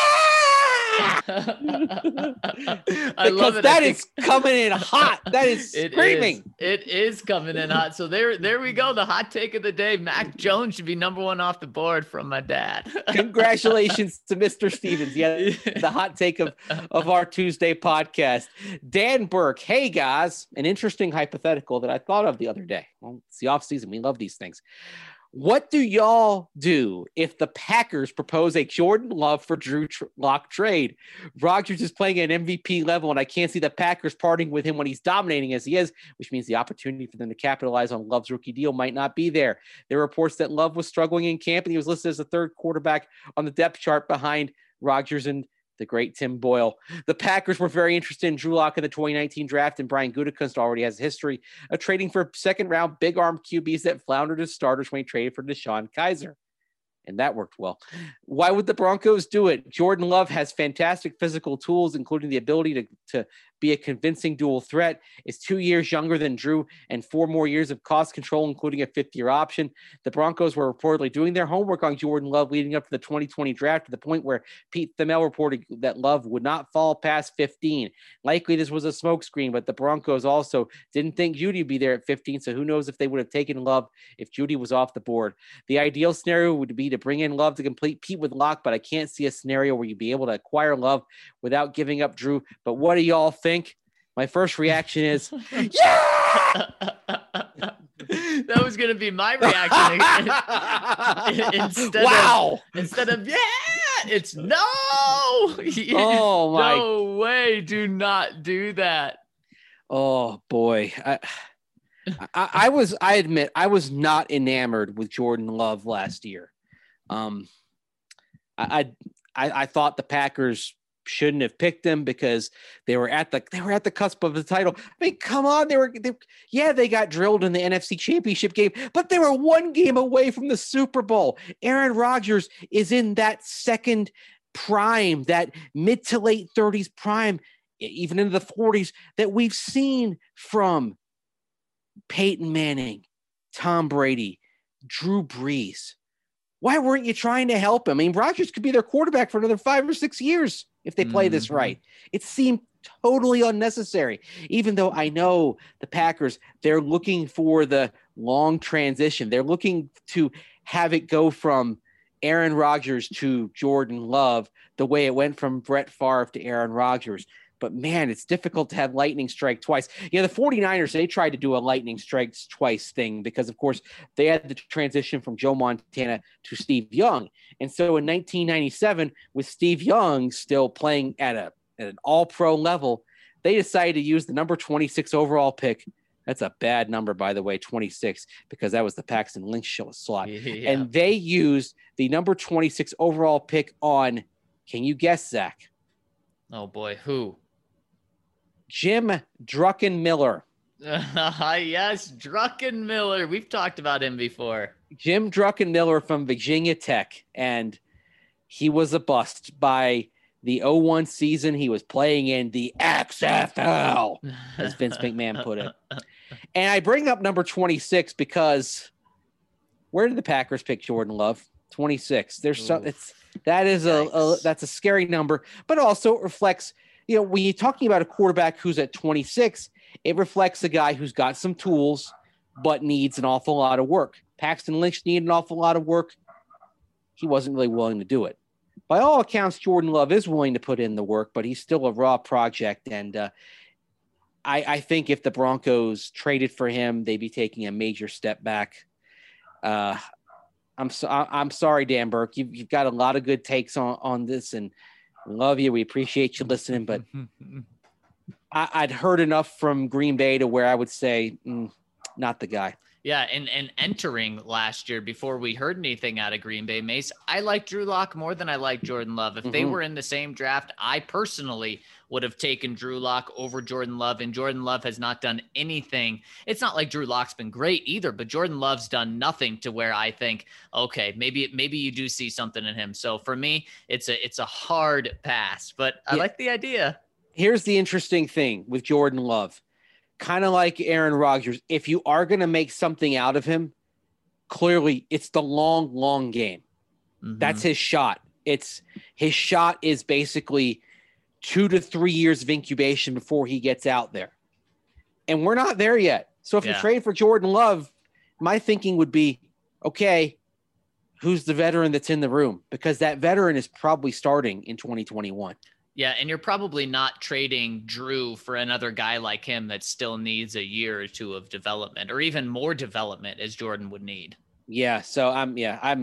I love it. That is coming in hot. That is screaming. It is coming in hot. So there we go. The hot take of the day. Mac Jones should be number 1 off the board from my dad. Congratulations to Mr. Stevens. Yeah, the hot take of our Tuesday podcast. Dan Burke. Hey guys, an interesting hypothetical that I thought of the other day. Well, it's the off season. We love these things. What do y'all do if the Packers propose a Jordan Love for Drew Lock trade? Rodgers is playing at an MVP level, and I can't see the Packers parting with him when he's dominating as he is, which means the opportunity for them to capitalize on Love's rookie deal might not be there. There are reports that Love was struggling in camp, and he was listed as the 3rd quarterback on the depth chart behind Rodgers and the great Tim Boyle. The Packers were very interested in Drew Lock in the 2019 draft, and Brian Gutekunst already has a history of trading for second-round big-arm QBs that floundered as starters when he traded for DeShone Kizer. And that worked well. Why would the Broncos do it? Jordan Love has fantastic physical tools, including the ability to be a convincing dual threat, is 2 years younger than Drew and 4 more years of cost control, including a 5th-year option. The Broncos were reportedly doing their homework on Jordan Love leading up to the 2020 draft to the point where Pete Thamel reported that Love would not fall past 15. Likely this was a smokescreen, but the Broncos also didn't think Judy would be there at 15, so who knows if they would have taken Love if Judy was off the board. The ideal scenario would be to bring in Love to complete Pete with Lock, but I can't see a scenario where you'd be able to acquire Love without giving up Drew. But what do y'all think? My first reaction is, yeah! That was going to be my reaction. Instead of, yeah, it's no. Oh, my. No way. Do not do that. Oh, boy. I admit, I was not enamored with Jordan Love last year. I thought the Packers shouldn't have picked him because they were at the cusp of the title. I mean, come on, they got drilled in the NFC Championship game, but they were 1 game away from the Super Bowl. Aaron Rodgers is in that second prime, that mid to late 30s prime, even into the 40s that we've seen from Peyton Manning, Tom Brady, Drew Brees. Why weren't you trying to help him? I mean, Rodgers could be their quarterback for another 5 or 6 years if they play this right. It seemed totally unnecessary, even though I know the Packers, they're looking for the long transition. They're looking to have it go from Aaron Rodgers to Jordan Love the way it went from Brett Favre to Aaron Rodgers. But, man, it's difficult to have lightning strike twice. The 49ers, they tried to do a lightning strikes twice thing because, of course, they had the transition from Joe Montana to Steve Young. And so in 1997, with Steve Young still playing at an all-pro level, they decided to use the number 26 overall pick. That's a bad number, by the way, 26, because that was the Paxton Lynch slot. Yeah. And they used the number 26 overall pick on, can you guess, Zach? Oh, boy, who? Jim Druckenmiller. Yes, Druckenmiller. We've talked about him before. Jim Druckenmiller from Virginia Tech, and he was a bust. By the 01 season, he was playing in the XFL, as Vince McMahon put it. And I bring up number 26 because where did the Packers pick Jordan Love? 26. There's some. That's a scary number, but also it reflects. When you're talking about a quarterback who's at 26, it reflects a guy who's got some tools, but needs an awful lot of work. Paxton Lynch needed an awful lot of work. He wasn't really willing to do it. By all accounts, Jordan Love is willing to put in the work, but he's still a raw project. And I think if the Broncos traded for him, they'd be taking a major step back. I'm sorry, Dan Burke. You've got a lot of good takes on this, and Love you. We appreciate you listening, but I'd heard enough from Green Bay to where I would say, not the guy. Yeah, and entering last year, before we heard anything out of Green Bay, Mace, I like Drew Lock more than I like Jordan Love. If they were in the same draft, I personally would have taken Drew Lock over Jordan Love, and Jordan Love has not done anything. It's not like Drew Lock's been great either, but Jordan Love's done nothing to where I think, okay, maybe you do see something in him. So for me, it's a hard pass, but I like the idea. Here's the interesting thing with Jordan Love. Kind of like Aaron Rodgers, if you are going to make something out of him, clearly it's the long game. Mm-hmm. That's his shot. His shot is basically 2 to 3 years of incubation before he gets out there. And we're not there yet. So if you trade for Jordan Love, my thinking would be, okay, who's the veteran that's in the room? Because that veteran is probably starting in 2021. Yeah, and you're probably not trading Drew for another guy like him that still needs a year or two of development, or even more development as Jordan would need. Yeah, so I'm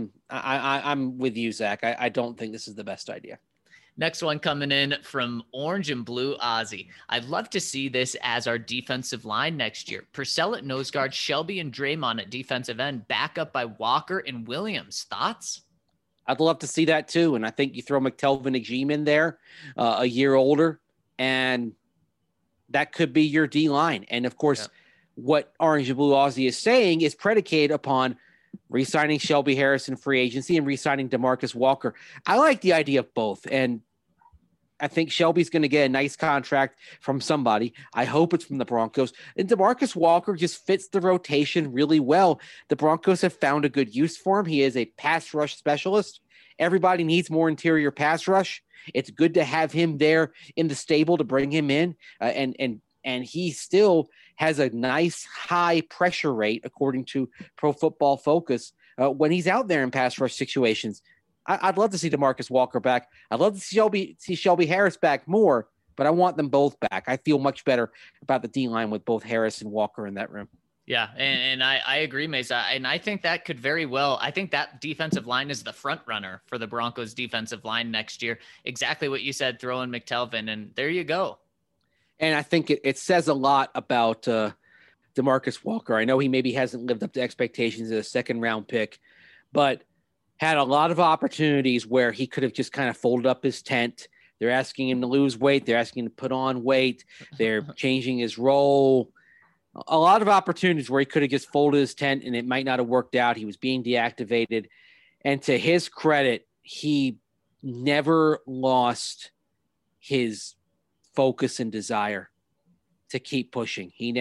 with you, Zach. I don't think this is the best idea. Next one coming in from Orange and Blue Ozzy. I'd love to see this as our defensive line next year. Purcell at nose guard, Shelby and Draymond at defensive end, backup by Walker and Williams. Thoughts? I'd love to see that too. And I think you throw McTelvin Agim in there, a year older, and that could be your D line. And of course, what Orange and Blue Ozzy is saying is predicated upon re-signing Shelby Harris in free agency and re-signing DeMarcus Walker. I like the idea of both. And I think Shelby's going to get a nice contract from somebody. I hope it's from the Broncos. And DeMarcus Walker just fits the rotation really well. The Broncos have found a good use for him. He is a pass rush specialist. Everybody needs more interior pass rush. It's good to have him there in the stable to bring him in. And he still has a nice high pressure rate, according to Pro Football Focus, when he's out there in pass rush situations. I'd love to see DeMarcus Walker back. I'd love to see Shelby Harris back more, but I want them both back. I feel much better about the D-line with both Harris and Walker in that room. Yeah, and I agree, Mesa. And I think that could very well – I think that defensive line is the front runner for the Broncos defensive line next year. Exactly what you said, throw in McTelvin, and there you go. And I think it says a lot about DeMarcus Walker. I know he maybe hasn't lived up to expectations as a second-round pick, but – had a lot of opportunities where he could have just kind of folded up his tent. They're asking him to lose weight. They're asking him to put on weight. They're changing his role. A lot of opportunities where he could have just folded his tent and it might not have worked out. He was being deactivated. And to his credit, he never lost his focus and desire to keep pushing. He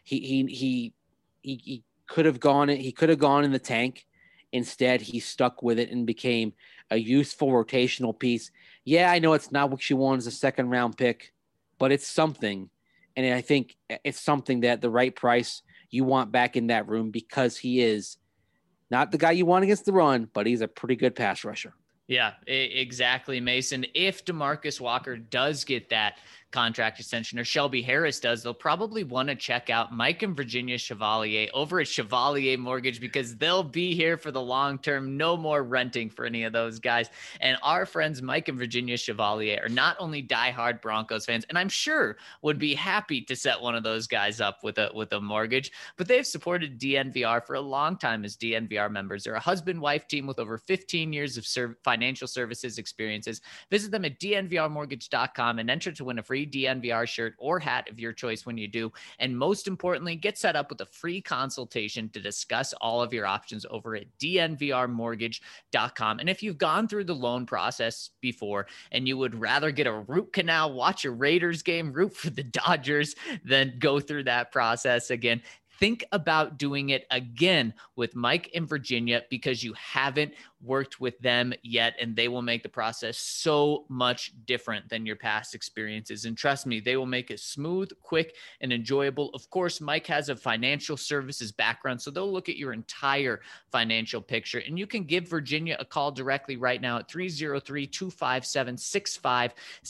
could have gone in the tank. Instead, he stuck with it and became a useful rotational piece. Yeah, I know it's not what you want as a second-round pick, but it's something. And I think it's something that the right price you want back in that room, because he is not the guy you want against the run, but he's a pretty good pass rusher. Yeah, exactly, Mason. If DeMarcus Walker does get that contract extension, or Shelby Harris does, they'll probably want to check out Mike and Virginia Chevalier over at Chevalier Mortgage, because they'll be here for the long term. No more renting for any of those guys. And our friends Mike and Virginia Chevalier are not only diehard Broncos fans, and I'm sure would be happy to set one of those guys up with a mortgage, but they've supported DNVR for a long time as DNVR members. They're a husband-wife team with over 15 years of financial services experiences. Visit them at dnvrmortgage.com and enter to win a free DNVR shirt or hat of your choice when you do. And most importantly, get set up with a free consultation to discuss all of your options over at dnvrmortgage.com. And if you've gone through the loan process before and you would rather get a root canal, watch a Raiders game, root for the Dodgers, than go through that process again, think about doing it again with Mike and Virginia, because you haven't worked with them yet, and they will make the process so much different than your past experiences. And trust me, they will make it smooth, quick, and enjoyable. Of course, Mike has a financial services background, so they'll look at your entire financial picture. And you can give Virginia a call directly right now at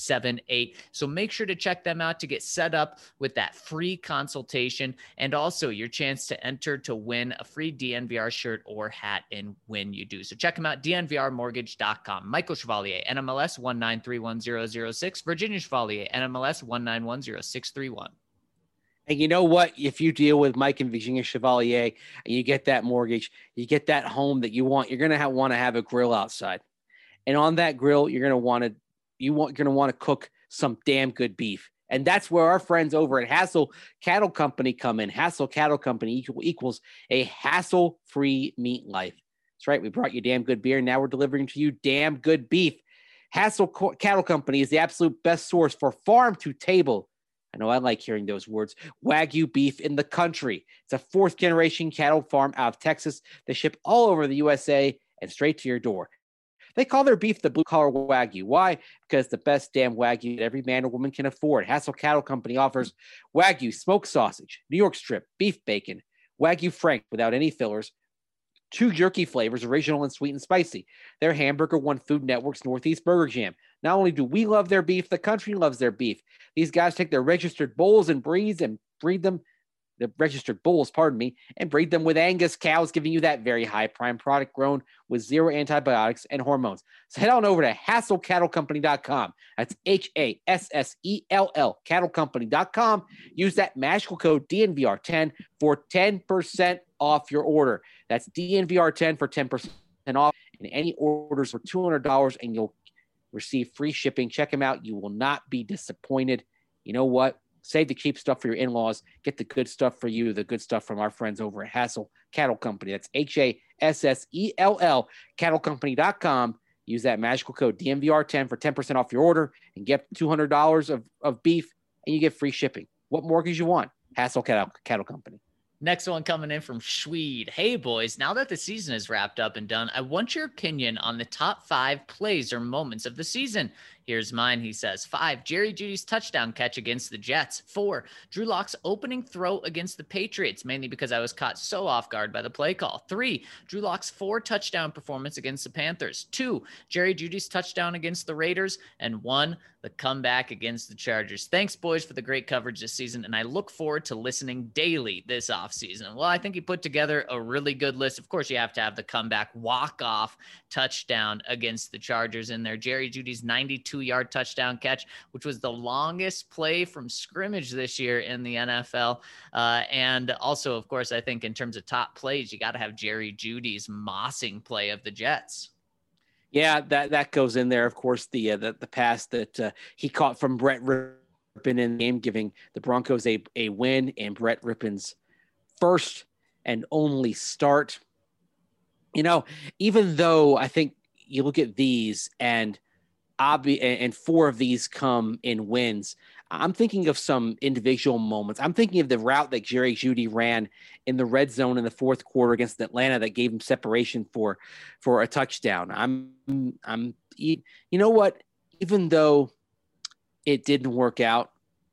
303-257-6578. So make sure to check them out to get set up with that free consultation. And also, your chance to enter to win a free DNVR shirt or hat and when you do. So check them out, dnvrmortgage.com. Michael Chevalier, NMLS 1931006, Virginia Chevalier, NMLS 1910631. And you know what? If you deal with Mike and Virginia Chevalier and you get that mortgage, you get that home that you want, you're going to want to have a grill outside. And on that grill, you're going to want to cook some damn good beef. And that's where our friends over at Hassel Cattle Company come in. Hassel Cattle Company equals a hassle-free meat life. That's right. We brought you damn good beer. And now we're delivering to you damn good beef. Hassel Cattle Company is the absolute best source for farm to table. I know I like hearing those words. Wagyu beef in the country. It's a fourth generation cattle farm out of Texas. They ship all over the USA and straight to your door. They call their beef the blue collar Wagyu. Why? Because the best damn Wagyu that every man or woman can afford. Hassel Cattle Company offers Wagyu smoked sausage, New York strip, beef bacon, Wagyu Frank without any fillers, 2 jerky flavors, original and sweet and spicy. Their hamburger won Food Network's Northeast Burger Jam. Not only do we love their beef, the country loves their beef. These guys take their registered bulls and breed them, the registered bulls, and breed them with Angus cows, giving you that very high prime product grown with zero antibiotics and hormones. So head on over to HassellCattleCompany.com. That's HASSELL CattleCompany.com. Use that magical code DNVR10 for 10% off your order. That's DNVR10 for 10% off. And any orders for $200 and you'll receive free shipping. Check them out. You will not be disappointed. You know what? Save the cheap stuff for your in-laws. Get the good stuff for you, the good stuff from our friends over at Hassel Cattle Company. That's HASSELL CattleCompany.com. Use that magical code DNVR10 for 10% off your order and get $200 of beef, and you get free shipping. What mortgage you want? Hassel Cattle Company. Next one coming in from Schweed. Hey, boys, now that the season is wrapped up and done, I want your opinion on the top 5 plays or moments of the season. Here's mine, he says. 5, Jerry Jeudy's touchdown catch against the Jets. 4, Drew Lock's opening throw against the Patriots, mainly because I was caught so off guard by the play call. 3, Drew Lock's 4 touchdown performance against the Panthers. 2, Jerry Jeudy's touchdown against the Raiders. And 1, the comeback against the Chargers. Thanks, boys, for the great coverage this season, and I look forward to listening daily this offseason. Well, I think he put together a really good list. Of course, you have to have the comeback walk-off touchdown against the Chargers in there. Jerry Jeudy's 92-yard touchdown catch, which was the longest play from scrimmage this year in the NFL. And also, of course, I think in terms of top plays, you got to have Jerry Jeudy's mossing play of the Jets. Yeah, that goes in there. Of course, the pass that he caught from Brett Rippon in the game, giving the Broncos a win, and Brett Rippon's first and only start. You know, even though I think you look at these and 4 of these come in wins, I'm thinking of some individual moments. I'm thinking of the route that Jerry Jeudy ran in the red zone in the fourth quarter against Atlanta that gave him separation for a touchdown. You know what? Even though it didn't work out,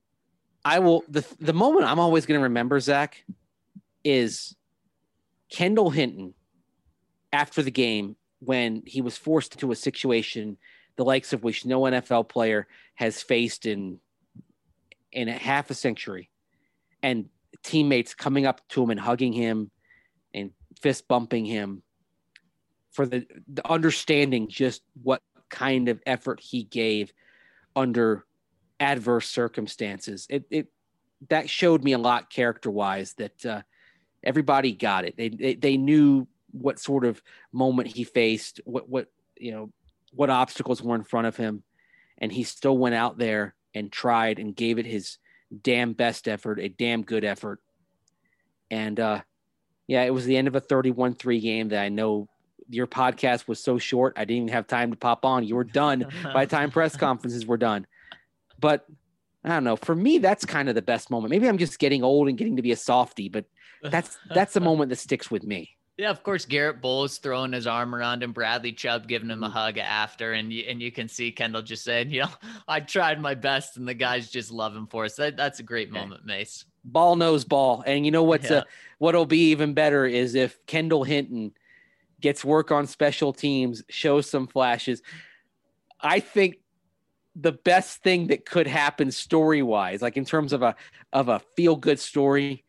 the moment I'm always going to remember, Zach, is Kendall Hinton after the game when he was forced into a situation the likes of which no NFL player has faced in a half a century, and teammates coming up to him and hugging him and fist bumping him for the understanding just what kind of effort he gave under adverse circumstances. That showed me a lot character-wise that everybody got it. They knew what sort of moment he faced, what obstacles were in front of him, and he still went out there and tried and gave it his damn best effort, a damn good effort. And it was the end of a 31-3 game that I know your podcast was so short, I didn't even have time to pop on. You were done by the time press conferences were done. But I don't know. For me, that's kind of the best moment. Maybe I'm just getting old and getting to be a softie, but that's the moment that sticks with me. Yeah, of course, Garrett Bowles throwing his arm around him, Bradley Chubb giving him a hug after, and you can see Kendall just saying, I tried my best, and the guys just love him for us. That's a great moment, Mace. Ball knows ball. And you know what'll be even better is if Kendall Hinton gets work on special teams, shows some flashes. I think the best thing that could happen story-wise, like in terms of a feel-good story,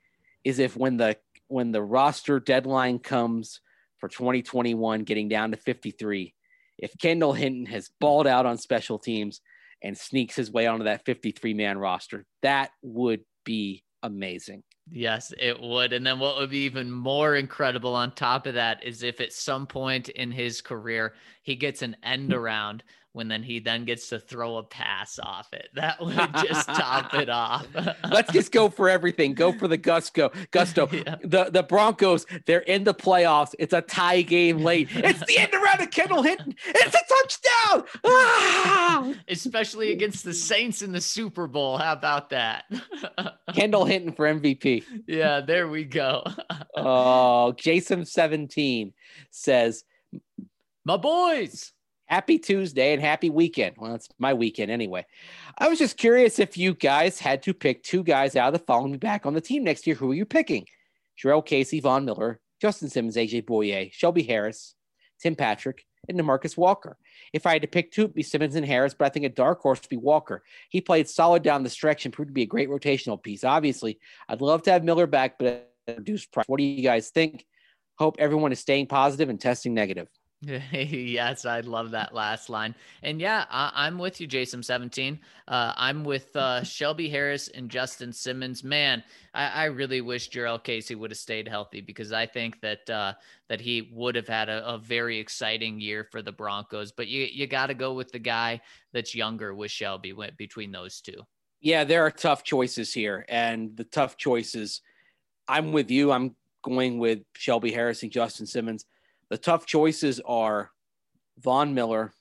is if when the roster deadline comes for 2021, getting down to 53, if Kendall Hinton has balled out on special teams and sneaks his way onto that 53-man roster, that would be amazing. Yes, it would. And then what would be even more incredible on top of that is if at some point in his career, he gets an end around when then he then gets to throw a pass off it. That would just top it off. Let's just go for everything. Go for the gusto. Yeah. The Broncos, they're in the playoffs. It's a tie game late. It's the end around of Kendall Hinton. It's a touchdown. Ah! Especially against the Saints in the Super Bowl. How about that? Kendall Hinton for MVP. Yeah, there we go. Oh, Jason17 says, my boys. Happy Tuesday and happy weekend. Well, it's my weekend anyway. I was just curious if you guys had to pick two guys out of the following back on the team next year. Who are you picking? Jurrell Casey, Von Miller, Justin Simmons, AJ Bouye, Shelby Harris, Tim Patrick, and DeMarcus Walker. If I had to pick two, it'd be Simmons and Harris, but I think a dark horse would be Walker. He played solid down the stretch and proved to be a great rotational piece. Obviously, I'd love to have Miller back, but at a reduced price. What do you guys think? Hope everyone is staying positive and testing negative. Yes, I love that last line. And yeah, I'm with you, Jason17. I'm with Shelby Harris and Justin Simmons. Man, I really wish Jurrell Casey would have stayed healthy, because I think that that he would have had a very exciting year for the Broncos. But you got to go with the guy that's younger with Shelby between those two. Yeah, there are tough choices here. And the tough choices, I'm with you. I'm going with Shelby Harris and Justin Simmons. The tough choices are Von Miller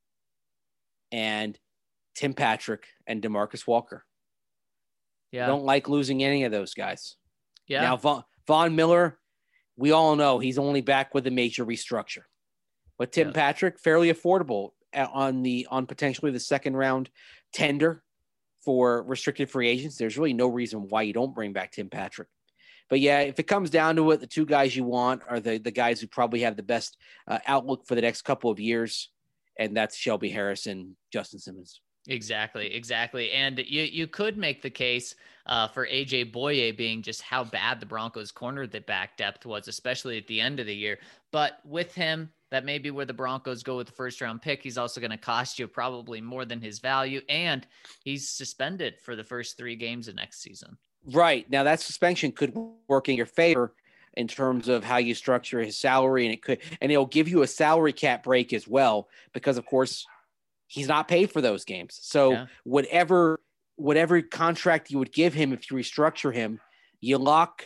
and Tim Patrick and DeMarcus Walker. Yeah. I don't like losing any of those guys. Yeah. Now, Von Miller, we all know he's only back with a major restructure. But Tim Patrick, fairly affordable on potentially the second round tender for restricted free agents. There's really no reason why you don't bring back Tim Patrick. But yeah, if it comes down to it, the two guys you want are the guys who probably have the best outlook for the next couple of years, and that's Shelby Harris and Justin Simmons. Exactly. And you could make the case for AJ Bouye being just how bad the Broncos corner the back depth was, especially at the end of the year. But with him, that may be where the Broncos go with the first round pick. He's also going to cost you probably more than his value, and he's suspended for the first 3 games of next season. Right. Now that suspension could work in your favor in terms of how you structure his salary, and it'll give you a salary cap break as well, because of course he's not paid for those games. So whatever contract you would give him, if you restructure him, you lock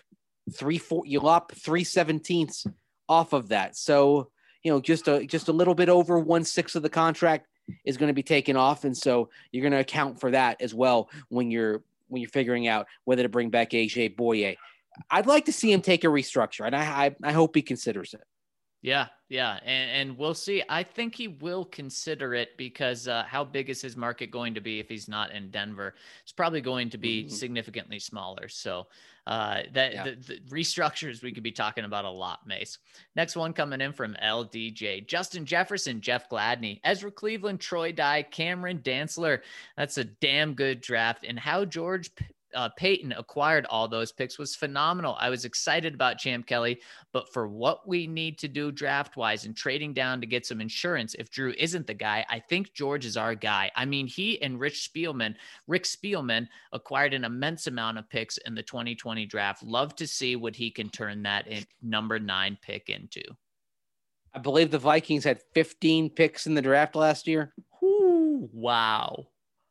3/17 off of that. So, just a little bit over 1/6 of the contract is going to be taken off. And so you're going to account for that as well when you're figuring out whether to bring back AJ Bouye. I'd like to see him take a restructure, and I hope he considers it. Yeah. And we'll see. I think he will consider it, because how big is his market going to be if he's not in Denver? It's probably going to be significantly smaller. So the restructures we could be talking about a lot, Mace. Next one coming in from LDJ. Justin Jefferson, Jeff Gladney, Ezra Cleveland, Troy Dye, Cameron Dantzler. That's a damn good draft. And how George Payton acquired all those picks was phenomenal. I was excited about Champ Kelly, but for what we need to do draft-wise and trading down to get some insurance, if Drew isn't the guy, I think George is our guy. I mean, he and Rick Spielman acquired an immense amount of picks in the 2020 draft. Love to see what he can turn that number 9 pick into. I believe the Vikings had 15 picks in the draft last year. Ooh, wow.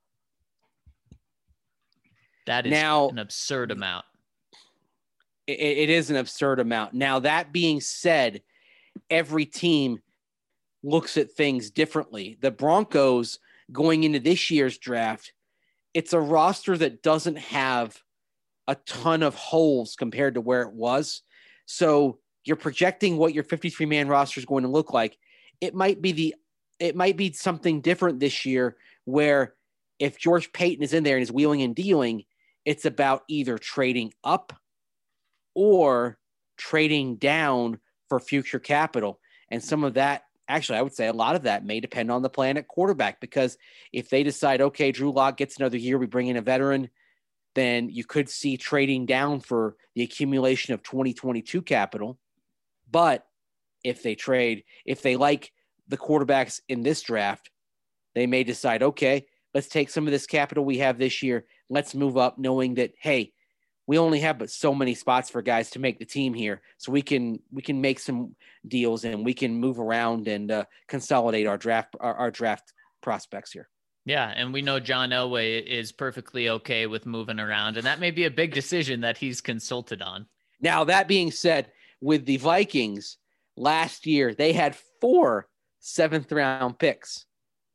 That is an absurd amount. It is an absurd amount. Now, that being said, every team looks at things differently. The Broncos, going into this year's draft, it's a roster that doesn't have a ton of holes compared to where it was. So you're projecting what your 53-man roster is going to look like. It might be something different this year, where if George Payton is in there and is wheeling and dealing, it's about either trading up or trading down for future capital. And some of that, actually, I would say a lot of that may depend on the plan at quarterback, because if they decide, okay, Drew Lock gets another year, we bring in a veteran, then you could see trading down for the accumulation of 2022 capital. But if they like the quarterbacks in this draft, they may decide, okay, let's take some of this capital we have this year. Let's move up, knowing that, hey, we only have but so many spots for guys to make the team here. So we can make some deals and we can move around and consolidate our draft prospects here. Yeah, and we know John Elway is perfectly okay with moving around, and that may be a big decision that he's consulted on. Now, that being said, with the Vikings last year, they had 4 7th-round picks.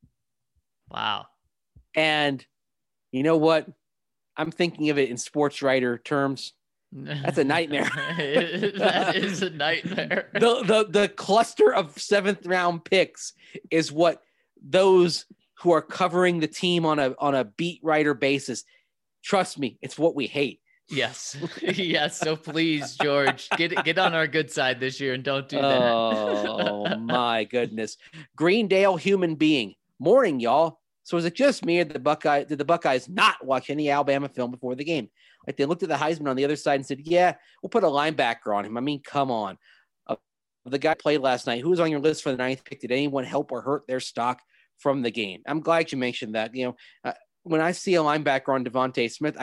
Wow. And you know what? I'm thinking of it in sports writer terms. That's a nightmare. That is a nightmare. The cluster of 7th-round picks is what those who are covering the team on a beat writer basis. Trust me, it's what we hate. Yes. Yes. So please, George, get on our good side this year and don't do that. Oh my goodness. Greendale human being. Morning, y'all. So is it just me or did the Buckeyes not watch any Alabama film before the game? Like they looked at the Heisman on the other side and said, yeah, we'll put a linebacker on him. I mean, come on. The guy played last night. Who was on your list for the 9th pick? Did anyone help or hurt their stock from the game? I'm glad you mentioned that. When I see a linebacker on Devontae Smith,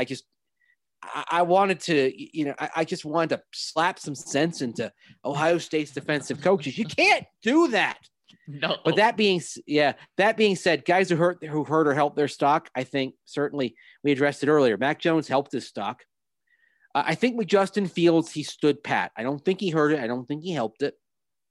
I wanted to, I just wanted to slap some sense into Ohio State's defensive coaches. You can't do that. No. But that being said, guys who hurt or helped their stock, I think certainly we addressed it earlier. Mac Jones helped his stock. I think with Justin Fields, he stood pat. I don't think he hurt it. I don't think he helped it.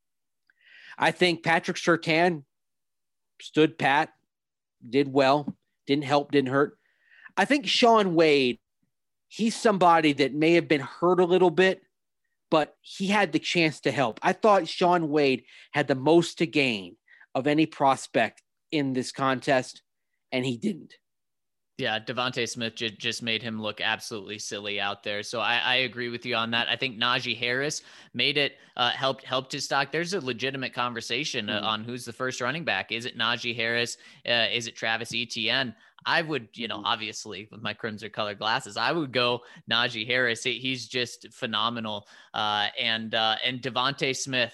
I think Patrick Surtain stood pat, did well, didn't help, didn't hurt. I think Shaun Wade, he's somebody that may have been hurt a little bit, but he had the chance to help. I thought Shaun Wade had the most to gain of any prospect in this contest, and he didn't. Yeah, Devontae Smith just made him look absolutely silly out there. So I agree with you on that. I think Najee Harris made it, helped his stock. There's a legitimate conversation on who's the first running back. Is it Najee Harris? Is it Travis Etienne? I would, obviously with my crimson colored glasses, I would go Najee Harris. He's just phenomenal. And Devontae Smith,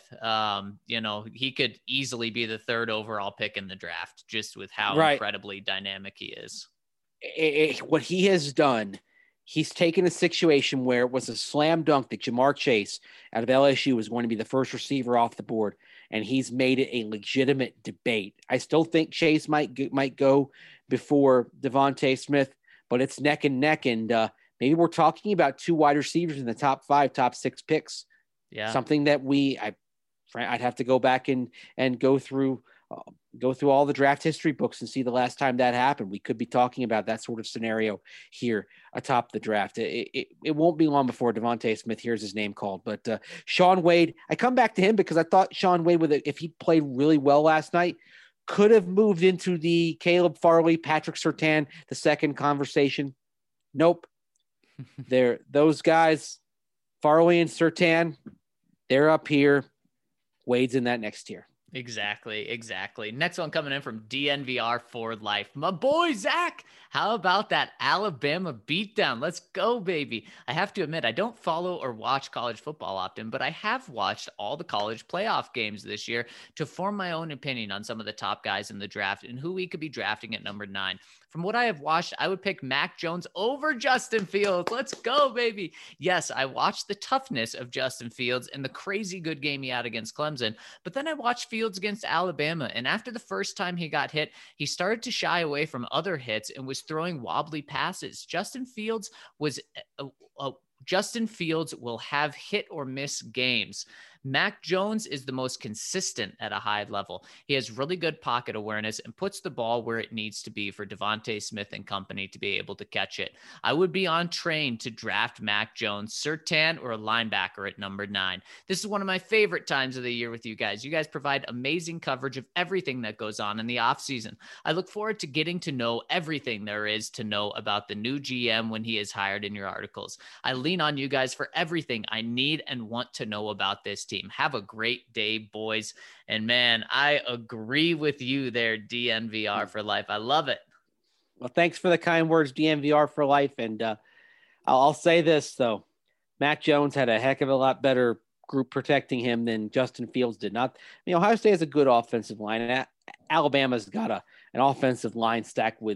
he could easily be the 3rd overall pick in the draft just with how incredibly dynamic he is. What he has done, he's taken a situation where it was a slam dunk that Jamar Chase out of LSU was going to be the first receiver off the board, and he's made it a legitimate debate. I still think Chase might go before Devontae Smith, but it's neck and neck, and maybe we're talking about 2 wide receivers in the top 5, top 6 picks. Yeah, something that I'd have to go back and go through all the draft history books and see the last time that happened. We could be talking about that sort of scenario here atop the draft. It won't be long before Devontae Smith hears his name called. But Shaun Wade, I come back to him because I thought Shaun Wade, if he played really well last night, could have moved into the Caleb Farley, Patrick Surtain, the second conversation. Nope. Those guys, Farley and Surtain, they're up here. Wade's in that next tier. Exactly. Next one coming in from DNVR for life. My boy, Zach, how about that Alabama beatdown? Let's go, baby. I have to admit, I don't follow or watch college football often, but I have watched all the college playoff games this year to form my own opinion on some of the top guys in the draft and who we could be drafting at number 9. From what I have watched, I would pick Mac Jones over Justin Fields. Let's go, baby. Yes, I watched the toughness of Justin Fields and the crazy good game he had against Clemson, but then I watched Fields against Alabama, and after the first time he got hit, he started to shy away from other hits and was throwing wobbly passes. Justin Fields will have hit or miss games. Mac Jones is the most consistent at a high level. He has really good pocket awareness and puts the ball where it needs to be for Devontae Smith and company to be able to catch it. I would be on train to draft Mac Jones, Surtain, or a linebacker at number 9. This is one of my favorite times of the year with you guys. You guys provide amazing coverage of everything that goes on in the offseason. I look forward to getting to know everything there is to know about the new GM when he is hired in your articles. I lean on you guys for everything I need and want to know about this team. Have a great day, boys. And man, I agree with you there, DNVR for life. I love it. Well, thanks for the kind words, DNVR for life. And I'll say this though. Mac Jones had a heck of a lot better group protecting him than Justin Fields did. Not, Ohio State has a good offensive line, and Alabama's got an offensive line stacked with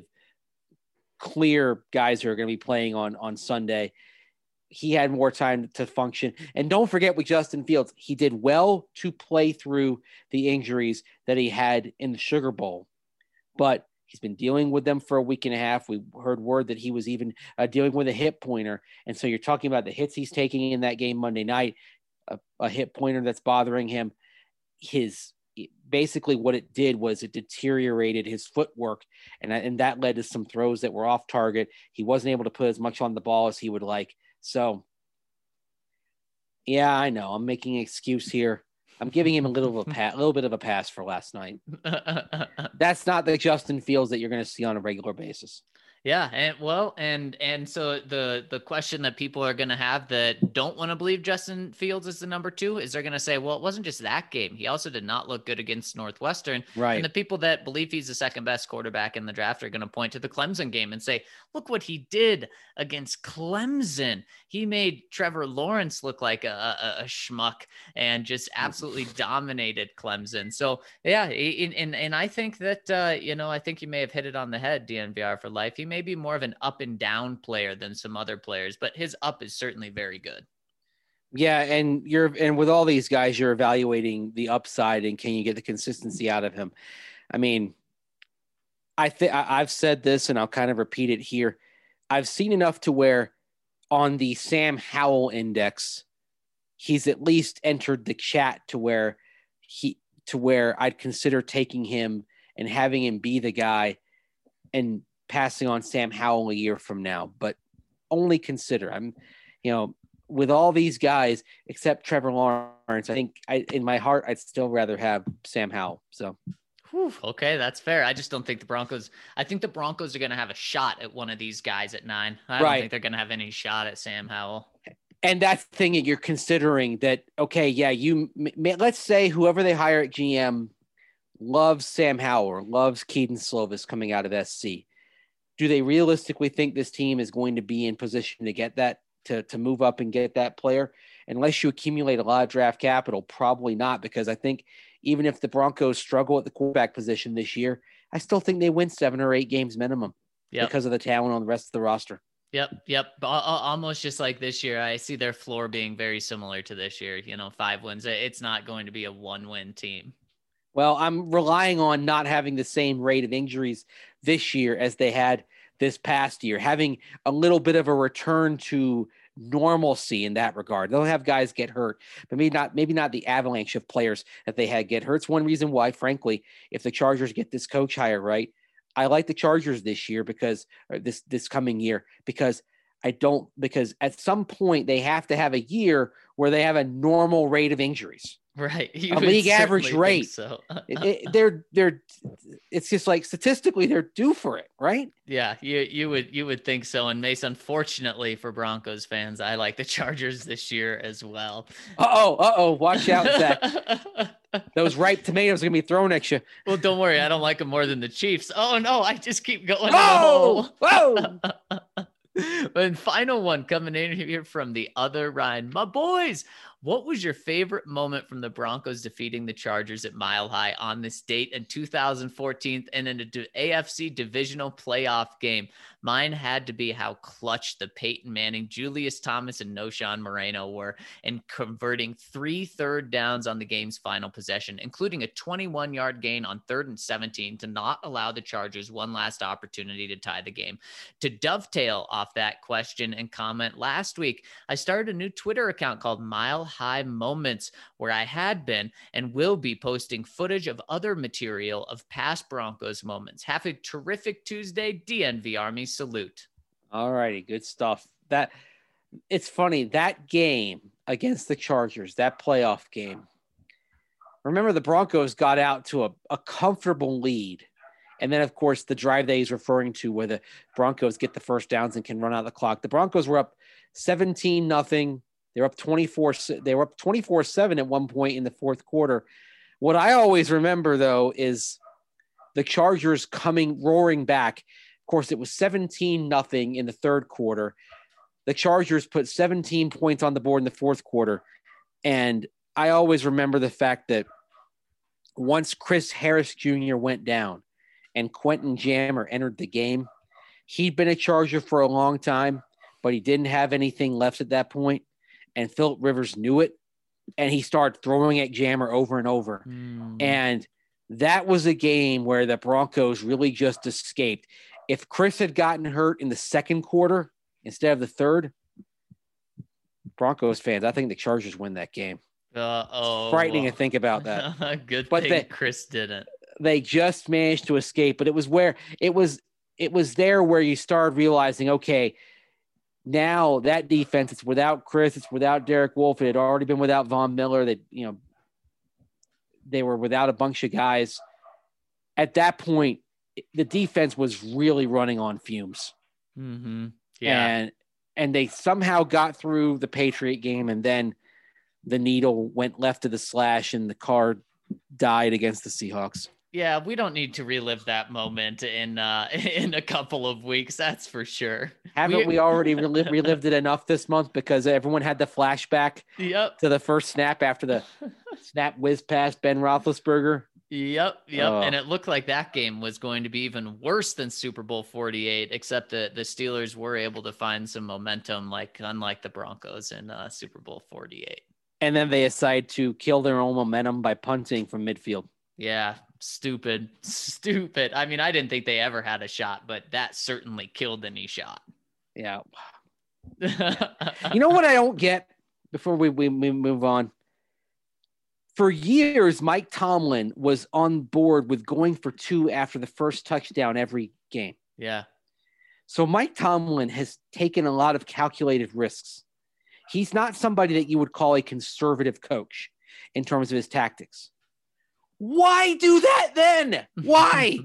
clear guys who are going to be playing on Sunday. He had more time to function. And don't forget with Justin Fields, he did well to play through the injuries that he had in the Sugar Bowl, but he's been dealing with them for a week and a half. We heard word that he was even dealing with a hip pointer. And so you're talking about the hits he's taking in that game Monday night, a hip pointer that's bothering him. Basically what it did was it deteriorated his footwork, and that led to some throws that were off target. He wasn't able to put as much on the ball as he would like. So, yeah, I know I'm making an excuse here. I'm giving him a little bit of a pass for last night. That's not the Justin Fields that you're going to see on a regular basis. Yeah, and so the question that people are going to have that don't want to believe Justin Fields is the number 2 is they're going to say, well, it wasn't just that game. He also did not look good against Northwestern. Right. And the people that believe he's the second best quarterback in the draft are going to point to the Clemson game and say, look what he did against Clemson. He made Trevor Lawrence look like a schmuck and just absolutely dominated Clemson. So yeah, and I think that I think you may have hit it on the head, DNVR for life. He may be more of an up and down player than some other players, but his up is certainly very good. Yeah, and with all these guys, you're evaluating the upside and can you get the consistency out of him? I mean, I've said this and I'll kind of repeat it here. I've seen enough to where on the Sam Howell index, he's at least entered the chat to where I'd consider taking him and having him be the guy and passing on Sam Howell a year from now, but only consider. With all these guys except Trevor Lawrence, I think in my heart, I'd still rather have Sam Howell. So, okay, that's fair. I just don't think I think the Broncos are going to have a shot at one of these guys at 9. I don't think they're going to have any shot at Sam Howell. And that's the thing that you're considering that, okay, yeah, let's say whoever they hire at GM loves Sam Howell or loves Keaton Slovis coming out of SC. Do they realistically think this team is going to be in position to get that, to move up and get that player? Unless you accumulate a lot of draft capital, probably not, because I think even if the Broncos struggle at the quarterback position this year, I still think they win 7 or 8 games minimum because of the talent on the rest of the roster. Yep. Almost just like this year. I see their floor being very similar to this year, 5 wins. It's not going to be a 1-win team. Well, I'm relying on not having the same rate of injuries this year as they had this past year, having a little bit of a return to normalcy in that regard. They'll have guys get hurt, but maybe not the avalanche of players that they had get hurt. It's one reason why, frankly, if the Chargers get this coach hire right, I like the Chargers this year because coming year, because at some point they have to have a year where they have a normal rate of injuries. Right. A league average rate. So. It's just like statistically they're due for it, right? Yeah, you would think so. And Mace, unfortunately for Broncos fans, I like the Chargers this year as well. Watch out, Zach. Those ripe tomatoes are gonna be thrown at you. Well, don't worry, I don't like them more than the Chiefs. Oh no, I just keep going. Whoa! And final one coming in here from the other Ryan. My boys, what was your favorite moment from the Broncos defeating the Chargers at Mile High on this date in 2014 and in an AFC divisional playoff game? Mine had to be how clutch the Peyton Manning, Julius Thomas, and Noshan Moreno were in converting 3 third downs on the game's final possession, including a 21-yard gain on 3rd and 17 to not allow the Chargers one last opportunity to tie the game. To dovetail off that question and comment, last week, I started a new Twitter account called Mile High Moments, where I had been and will be posting footage of other material of past Broncos moments. Have a terrific Tuesday, DNV Army. Salute. All righty, good stuff. That it's funny, that game against the Chargers, that playoff game. Remember, the Broncos got out to a comfortable lead. And then, of course, the drive that he's referring to where the Broncos get the first downs and can run out the clock. The Broncos were up 17-0. They were up 24-7 at one point in the fourth quarter. What I always remember, though, is the Chargers coming roaring back. Of course, it was 17-0 in the third quarter. the Chargers put 17 points on the board in the fourth quarter. And I always remember the fact that once Chris Harris Jr. went down and Quentin Jammer entered the game, he'd been a Charger for a long time, but he didn't have anything left at that point. And Phillip Rivers knew it. And he started throwing at Jammer over and over. And that was a game where the Broncos really just escaped. If Chris had gotten hurt in the second quarter instead of the third, Broncos fans, I think the Chargers win that game. It's frightening to think about that. Good thing Chris didn't. They just managed to escape, but it was where it was there where you started realizing, okay, now that defense, it's without Chris, it's without Derek Wolfe. It had already been without Von Miller. They were without a bunch of guys. At that point, the defense was really running on fumes. Mm-hmm. Yeah. And they somehow got through the Patriot game, and then the needle went left of the slash and the car died against the Seahawks. Yeah, we don't need to relive that moment in a couple of weeks. That's for sure. Haven't we already relived it enough this month because everyone had the flashback to the first snap after the snap whiz past Ben Roethlisberger? Yep. And it looked like that game was going to be even worse than Super Bowl 48, except that the Steelers were able to find some momentum, unlike the Broncos in Super Bowl 48. And then they decided to kill their own momentum by punting from midfield. Yeah, stupid. I mean, I didn't think they ever had a shot, but that certainly killed any shot. Yeah. You know what I don't get before we move on? For years, Mike Tomlin was on board with going for 2 after the first touchdown every game. Yeah. So Mike Tomlin has taken a lot of calculated risks. He's not somebody that you would call a conservative coach in terms of his tactics. Why do that then? Why?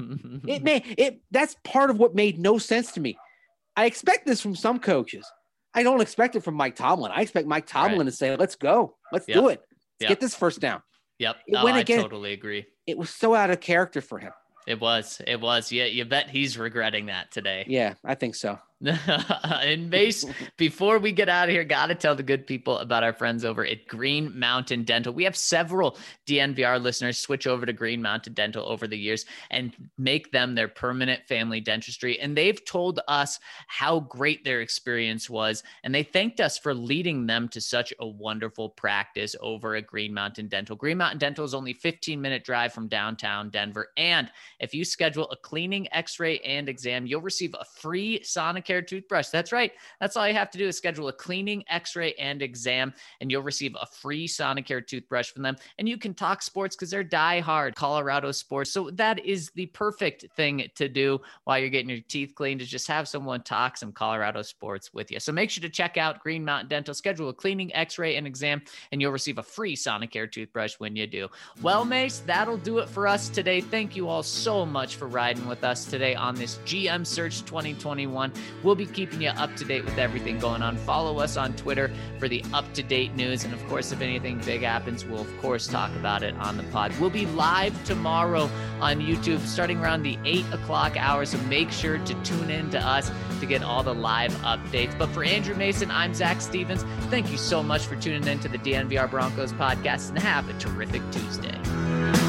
That's part of what made no sense to me. I expect this from some coaches. I don't expect it from Mike Tomlin. I expect Mike Tomlin to say, let's go. Let's do it. Let's get this first down. Yep. I totally agree. It was so out of character for him. It was. Yeah, you bet he's regretting that today. Yeah, I think so. And Mace, before we get out of here, got to tell the good people about our friends over at Green Mountain Dental. We have several DNVR listeners switch over to Green Mountain Dental over the years and make them their permanent family dentistry. And they've told us how great their experience was. And they thanked us for leading them to such a wonderful practice over at Green Mountain Dental. Green Mountain Dental is only a 15-minute drive from downtown Denver. And if you schedule a cleaning, x-ray, and exam, you'll receive a free Sonicare toothbrush. That's right. That's all you have to do is schedule a cleaning, x-ray, and exam, and you'll receive a free Sonicare toothbrush from them. And you can talk sports because they're diehard Colorado sports. So that is the perfect thing to do while you're getting your teeth cleaned, is just have someone talk some Colorado sports with you. So make sure to check out Green Mountain Dental, schedule a cleaning, x-ray, and exam, and you'll receive a free Sonicare toothbrush when you do. Well, Mace, that'll do it for us today. Thank you all so much for riding with us today on this GM Search 2021. We'll be keeping you up to date with everything going on. Follow us on Twitter for the up-to-date news. And of course, if anything big happens, we'll of course talk about it on the pod. We'll be live tomorrow on YouTube starting around the 8 o'clock hour. So make sure to tune in to us to get all the live updates. But for Andrew Mason, I'm Zach Stevens. Thank you so much for tuning in to the DNVR Broncos podcast, and have a terrific Tuesday.